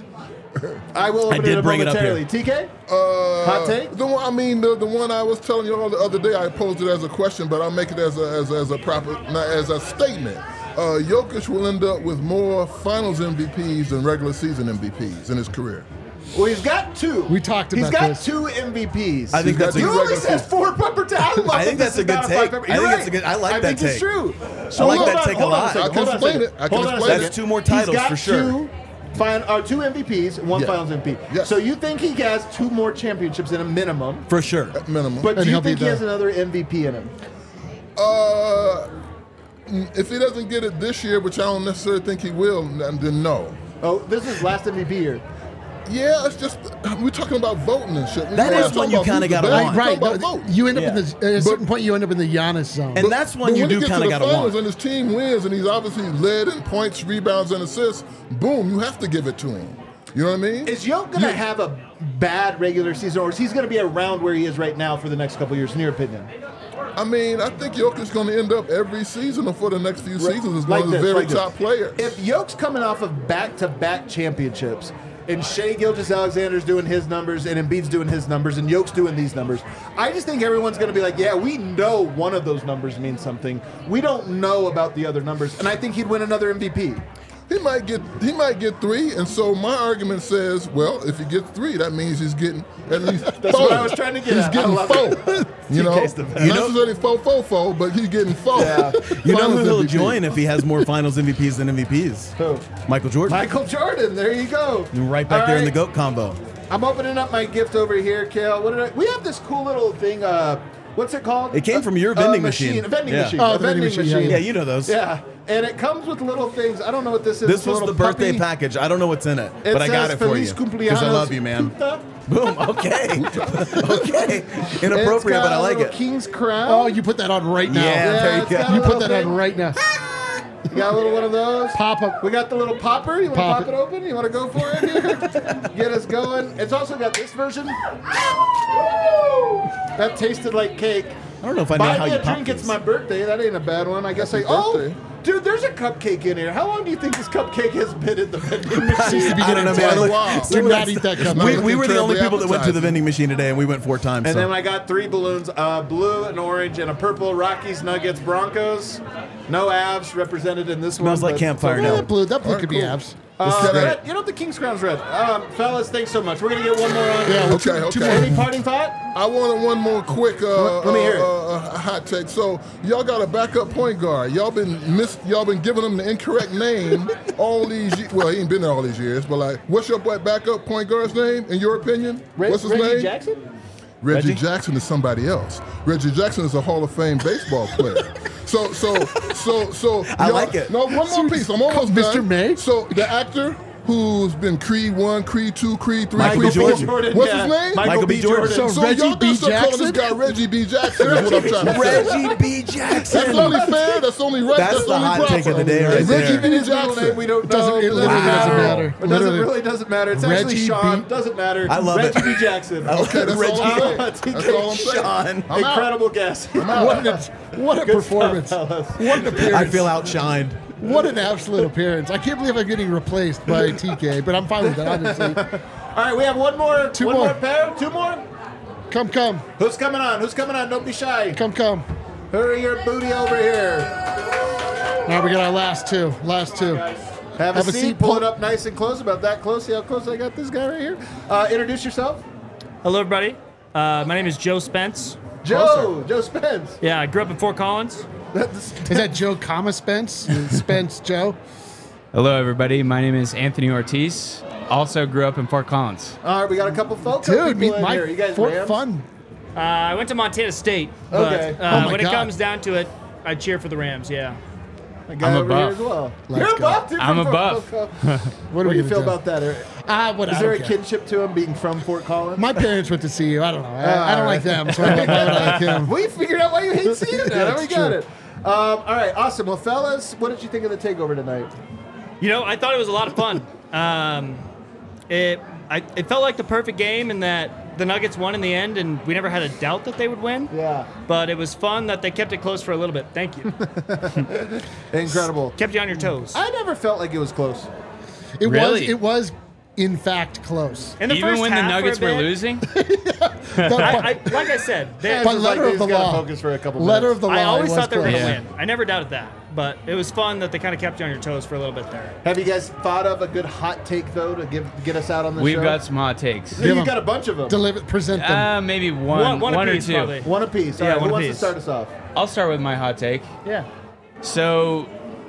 I will open I did it bring it up momentarily. here. T K? Uh, Hot take? The one, I mean, the, the one I was telling you all the other day, I posed it as a question, but I'll make it as a, as, a- as a proper, not as a statement. Uh, Jokic will end up with more Finals M V Ps than regular season M V Ps in his career. Well, he's got two. We talked He's about got this. two M V Ps. I think got that's a two You good. only regular said four pepper to I love I think that that's this a good is not take. five pepper. I You're think right. that's a good- I like I that think take. it's true. I like hold that on, take a hold on lot. second, I can hold on a explain second. it. I can Hold on a explain second. it. That's two more He's titles got for sure. Two, fin- uh, two M V Ps, one Yeah. Finals M V P. Yes. So you think he has two more championships in a minimum? For sure. At minimum. But And do you he'll be think he the- has another M V P in him? Uh, if he doesn't get it this year, which I don't necessarily think he will, then no. Oh, this is last M V P year. Yeah, it's just we're talking about voting and shit. That We're is not when talking you about kinda who's the gotta best. want. We're Right. talking No, about votes. you end up Yeah. in the, at a certain point, you end up in the Giannis zone. And that's when But you when do he gets kind to of the got to finals want. and his team wins, and he's obviously led in points, rebounds, and assists. Boom, you have to give it to him. You know what I mean? Is Jokic going to You- have a bad regular season, or is he going to be around where he is right now for the next couple years, in your opinion? I mean, I think Jokic's going to end up every season or for the next few Right. seasons as Like one of the this, very like this. top players. If Yoke's coming off of back-to-back championships, and Shea Gilgeous-Alexander's doing his numbers, and Embiid's doing his numbers, and Yoke's doing these numbers, I just think everyone's going to be like, yeah, we know one of those numbers means something. We don't know about the other numbers, and I think he'd win another M V P. He might get he might get three, and so my argument says, well, if he gets three, that means he's getting at least That's four. what I was trying to get He's at. I getting love four. it. You know, T not K's the best. necessarily four, four, four, but he's getting four. Yeah. You know Finals who he'll M V P. join if he has more Finals M V Ps than M V Ps? Who? Michael Jordan. Michael Jordan, there you go. Right back All there in the right. GOAT combo. I'm opening up my gift over here, Kale. What did I? We have this cool little thing. Uh, what's it called? It came Uh, from your uh, vending machine. machine. A vending Yeah. machine. Oh, a the vending vending machine, machine. yeah, Yeah, you know those. Yeah, and it comes with little things. I don't know what this is. This It's a was the little birthday puppy. package. I don't know what's in it, It but I got says it for Feliz you Cumpleaños, because I love you, man. Puta. Boom. Okay. okay. It's Inappropriate, got but I a like little it. King's crown. Oh, you put that on right now. Yeah, there you it's go. got a You put little that thing. on right now. You got a little one of those. Pop up. We got the little popper. You want to Pop pop it. it open? You want to go for it here? Get us going. It's also got this version. That tasted like cake. I don't know if I know Buy how me you a pop drink. It's these. my birthday. That ain't a bad one. I guess I. Happy Oh, birthday. dude, there's a cupcake in here. How long do you think this cupcake has been in the vending Seems machine? to be I don't know, getting man. tight. Wow. Do not eat that cup. We, Not we were the only terribly people that went to the appetizing. vending machine today, and we went four times. And so. then I got three balloons: uh, blue, an orange, and a purple. Rockies, Nuggets, Broncos. No Avs represented in this one. Smells like but- campfire Yeah, now. that blue. That blue All right, could be cool. abs. Uh, This is great. red, you know the King's Crown's red. Um, fellas, thanks so much. We're gonna get one more on. Yeah, well, Okay, two, two okay. more. Any parting thought? I wanted one more quick uh, Let me hear it. uh, uh, hot take. So y'all got a backup point guard. Y'all been miss. Y'all been giving him the incorrect name all these. Ye- well, he ain't been there all these years. But like, what's your boy backup point guard's name in your opinion? Re- what's his Reggie name? Jackson? Reggie, Reggie? Jackson is somebody else. Reggie Jackson is a Hall of Fame baseball player. So, so, so, so. I y'all- like it. No, one more piece. I'm almost Mister done. May? So the actor who's been Creed one, Creed two, Creed three, Michael Creed B. four. Jordan. What's yeah. his name? Michael, Michael B. B. Jordan. Jordan. So So Reggie y'all B. gotta start calling this Jackson? guy Reggie B. Jackson. Is what I'm trying to say. Reggie B. Jackson. That's only fair. That's only right. That's That's, the only hot proper. take of the day right Reggie there. B. His middle name Jackson. we don't It doesn't- know. it literally Doesn't doesn't matter. matter. It doesn't Literally. really doesn't matter. It's actually Reggie Sean. B. Doesn't matter. I love Reggie it. B. Jackson. Okay, that's all I'm saying. Uh, That's all I'm saying. Sean. I'm out. Incredible guess. What a, what a performance. fellas. What an appearance. I feel outshined. What an absolute appearance. I can't believe I'm getting replaced by T K, but I'm fine with that, obviously. All right, we have one more. Two one more. more pair. Two more. Come, come. Who's coming on? Who's coming on? Don't be shy. Come, come. Hurry your booty over here. All right, we got our last two. Last two. Have, Have a, a seat. seat, Pull pull- it up nice and close. About that close. See how close I got this guy right here. Uh, introduce yourself. Hello, everybody. Uh, my name is Joe Spence. Joe. Joe Spence. Yeah, I grew up in Fort Collins. Is that Joe, comma Spence? Spence Joe? Hello, everybody. My name is Anthony Ortiz. Also grew up in Fort Collins. All right, we got a couple folks. Dude, meet in my here. You guys Fort Rams? Fun. Uh, I went to Montana State. But, Okay. uh, Oh my when God. it comes down to it, I cheer for the Rams. Yeah. A guy I'm a over here buff. as well. Let's You're a go. buff, dude. I'm from a Fort- buff. What, What are do we you feel gonna about that? Eric? Ah, what? Is I there a don't care. kinship to him being from Fort Collins? My parents went to see you. I don't know. I, I don't like them, so why would I like him? We figured out why you hate C U now. That's we got true. it. Um, all right, awesome. Well, fellas, what did you think of the takeover tonight? You know, I thought it was a lot of fun. Um, it, I, it felt like the perfect game in that the Nuggets won in the end, and we never had a doubt that they would win. Yeah. But it was fun that they kept it close for a little bit. Thank you. Incredible. Kept you on your toes. I never felt like it was close. It was. Really? It was, in fact, close. In the Even first when the half for a Nuggets were bit, losing, The- I, I, like I said, they, Yeah, By it's just like letter they of the just gotta law. focus for a couple letter minutes. of the law. I always it was thought they were going to close. Yeah. win. I never doubted that. But it was fun that they kind of kept you on your toes for a little bit there. Have you guys thought of a good hot take though to give get us out on the we've show? got some hot takes. Give You've 'em. got a bunch of them. Deliver, present them. Uh, maybe one, One- one one or apiece, two. probably. One apiece. All Yeah, right, one who wants to apiece. start us off? I'll start with my hot take. Yeah. So,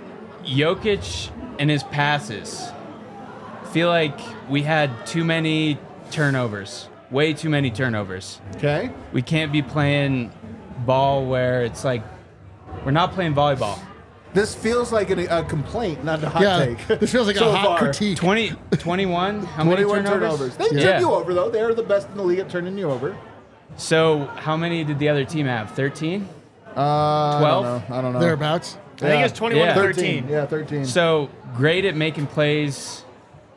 Jokic and his passes. Feel like we had too many turnovers. Way too many turnovers. Okay. We can't be playing ball where it's like we're not playing volleyball. This feels like an, a complaint, not a hot yeah, take. this feels like So a hot far. critique. twenty, twenty-one? How many twenty-one turnovers? turnovers. They Yeah. turn you over though. They are the best in the league at turning you over. So, how many did the other team have? thirteen? Uh, twelve? I don't know. I don't know. Thereabouts. I think it was twenty-one Yeah. to thirteen. thirteen. Yeah, thirteen. So, great at making plays.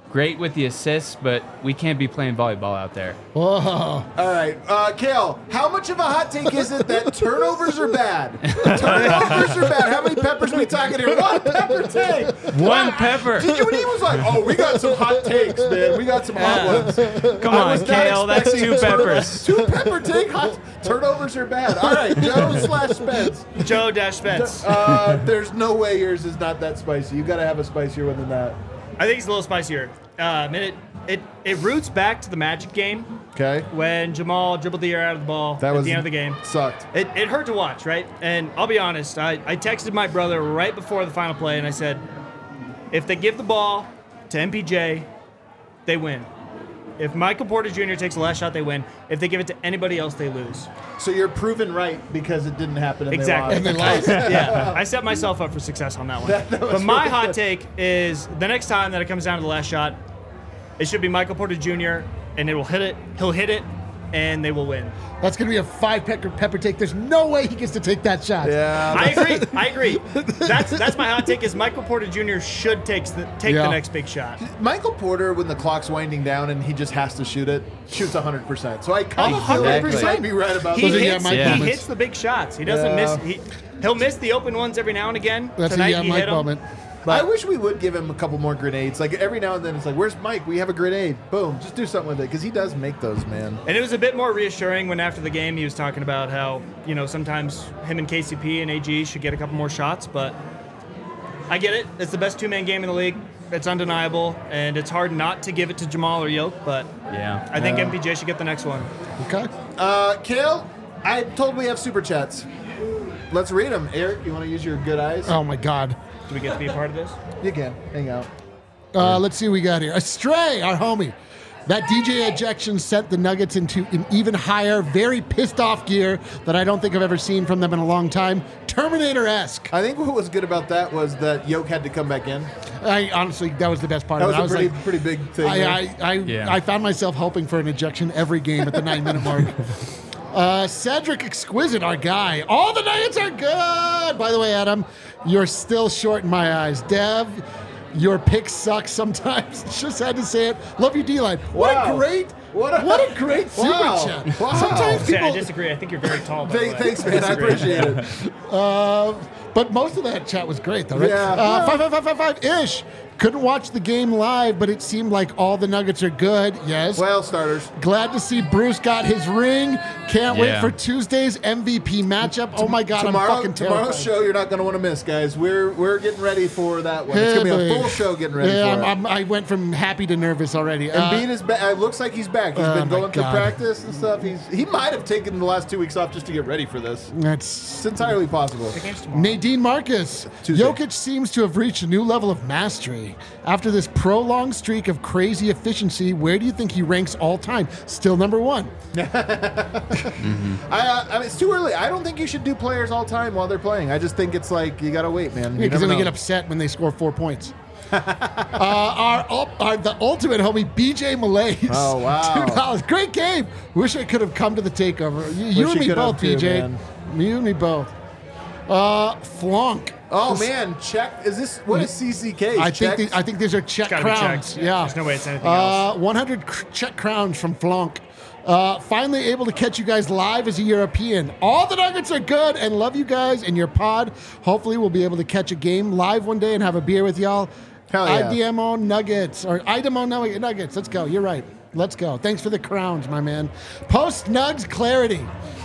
great with the assists, but we can't be playing volleyball out there. Whoa. All right, uh, Kale, how much of a hot take is it that turnovers are bad? Turnovers are bad. How many peppers are we talking here? One pepper take. One pepper. Did you and he was like, oh, we got some hot takes, man. We got some hot ones. Come I on, was not Kale, that's expecting two a turno- peppers. Two pepper take. Hot turnovers are bad. All right, Joe slash Spence. Joe Dash Spence. Uh, there's no way yours is not that spicy. You got to have a spicier one than that. I think it's a little spicier. Um, and it, it it roots back to the Magic game Okay. when Jamal dribbled the air out of the ball That at was the end of the game. Sucked. It, it hurt to watch, right? And I'll be honest, I, I texted my brother right before the final play, and I said, if they give the ball to M P J, they win. If Michael Porter Junior takes the last shot, they win. If they give it to anybody else, they lose. So you're proven right because it didn't happen and Exactly. they lost. Yeah, I set myself up for success on that one. That- that was but my really hot good. take is the next time that it comes down to the last shot, it should be Michael Porter Junior and it will hit it. He'll hit it, and they will win. That's going to be a five pepper, pepper take. There's no way he gets to take that shot. Yeah. I agree. I agree. That's that's my hot take. Is Michael Porter Junior should take the take Yeah. the next big shot. Michael Porter, when the clock's winding down and he just has to shoot it, shoots one hundred percent. So I kind of feel like you Exactly. might be right about He Those are that. yeah, hits, Mike he moments. hits the big shots. He doesn't Yeah. miss. He, he'll miss the open ones every now and again. That's Tonight a yeah, he Mike hit 'em. moment. I wish we would give him a couple more grenades. Like every now and then, it's like, "Where's Mike? We have a grenade. Boom, just do something with it." Because he does make those, man. And it was a bit more reassuring when after the game he was talking about how, you know, sometimes him and K C P and A G should get a couple more shots, but I get it. It's the best two-man game in the league. It's undeniable, and it's hard not to give it to Jamal or Yoke, but Yeah. I think Yeah. M P J should get the next one. Okay. Uh, Kale, I told we have super chats. Let's read them. Eric, you want to use your good eyes? Oh, my God. Do we get to be a part of this? You can. Hang out. Uh, let's see what we got here. Astray, our homie. That D J ejection sent the Nuggets into an even higher, very pissed off gear that I don't think I've ever seen from them in a long time. Terminator-esque. I think what was good about that was that Yoke had to come back in. I honestly, that was the best part That of was it. I a was pretty, like, pretty big thing. I, there. I, I, Yeah. I found myself hoping for an ejection every game at the nine-minute mark. Uh, Cedric Exquisite, our guy. All the Nuggets are good. By the way, Adam, you're still short in my eyes. Dev, your picks suck sometimes. Just had to say it. Love you, D-Line. What Wow. a great, What what a- a, great super Wow. chat. Wow. Sometimes Say, I people, disagree. I think you're very tall. By the Th- way. thanks, man. I appreciate it. uh, but most of that chat was great, though, right? Yeah. Uh, five, five, five, five, five ish. Couldn't watch the game live, but it seemed like all the Nuggets are good. Yes. Well, starters. Glad to see Bruce got his ring. Can't wait Yeah. for Tuesday's M V P matchup. Oh my God, Tomorrow, I'm fucking terrified. tomorrow's show, you're not going to want to miss, guys. We're we're getting ready for that one. It's Hey, going to be a boy. full show getting ready Yeah, for I'm, it. I'm, I went from happy to nervous already. Uh, Embiid is back. It looks like he's back. He's Oh been my going through God. practice and stuff. He's he might have taken the last two weeks off just to get ready for this. that's It's entirely possible. Nadine Marcus. Tuesday. Jokic seems to have reached a new level of mastery. After this prolonged streak of crazy efficiency, where do you think he ranks all time? Still number one. I, uh, I mean, it's too early. I don't think you should do players all time while they're playing. I just think it's like you gotta wait, man. You Because then never we get know. upset when they score four points. uh, our, ul- our the ultimate homie B J Malaise. Oh, wow. Two dollars. Great game. Wish I could have come to the takeover. You, you Wish and you me could have both, too, B J. man. You and me both. Uh, Flonk. Oh This- man, check. Is this what is C C K? I think Checked? the, I think these are check gotta be crowns. checked. Yeah. There's no way it's anything uh, else. one hundred cr- check crowns from Flonk. Uh, finally able to catch you guys live as a European. All the Nuggets are good and love you guys and your pod. Hopefully we'll be able to catch a game live one day and have a beer with y'all. Hell yeah. I D M O Nuggets or I D M O Nug- Nuggets. Let's go. You're right. Let's go. Thanks for the crowns, my man. Post Nugs clarity.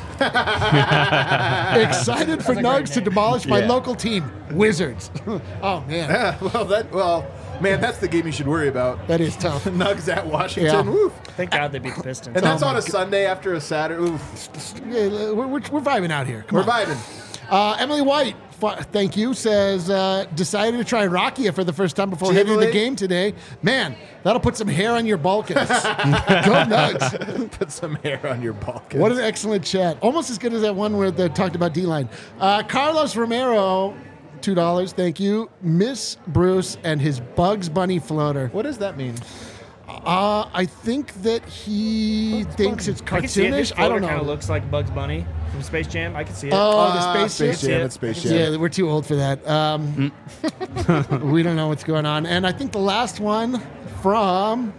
Excited for Nugs to demolish my Yeah. local team, Wizards. Oh man, Yeah, well, that well, man, that's the game you should worry about. that is tough. Nugs at Washington. Yeah. Woof. Thank God they beat the Pistons. And that's Oh on my a Sunday after a Saturday. Oof. Yeah, we're, we're, we're vibing out here. Come We're on. vibing. Uh, Emily White, f- thank you, says, uh, decided to try Rakia for the first time before hitting the Emily? game today. Man, that'll put some hair on your Balkans. Go Nugs. Put some hair on your Balkans. What an excellent chat. Almost as good as that one where they talked about D-line. Uh, Carlos Romero, two dollars, thank you. Miss Bruce and his Bugs Bunny floater. What does that mean? Uh, I think that he thinks it's I can see it. His cartoonish. I don't kind of know. looks like Bugs Bunny from Space Jam. I can see it. Oh, the Ah, space, Space Jam? Jam. It's Space Jam. Yeah, we're too old for that. Um, we don't know what's going on. And I think the last one from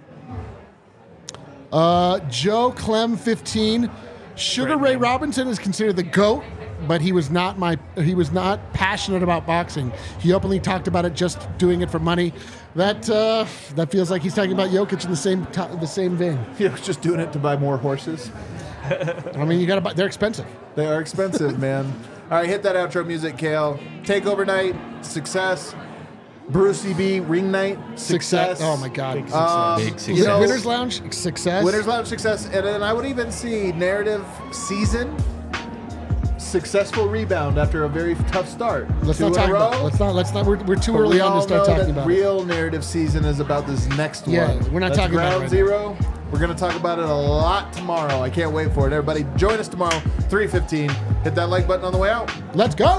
uh, Joe Clem fifteen. Sugar Ray Robinson is considered the GOAT, but he was not my he was not passionate about boxing. He openly talked about it just doing it for money. That uh, that feels like he's talking about Jokic in the same t- the same vein. He was just doing it to buy more horses. I mean, you got to buy. They're expensive. They are expensive, man. All right, hit that outro music, Kale. Takeover night, success. Brucey B, ring night, success. Success. Oh my God. Big success. Big success. You know, Winners Lounge, success. Winners Lounge, success. And then I would even see narrative season, successful rebound after a very tough start. Let's Two not in talk a row. about. Let's not. Let's not. We're, we're too But early we on all to start know talking that about it. real narrative season is about this next Yeah, one. we're not That's talking about it ground right zero. We're going to talk about it a lot tomorrow. I can't wait for it. Everybody, join us tomorrow, three fifteen. Hit that like button on the way out. Let's go.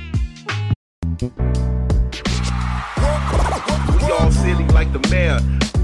We all silly like the mayor.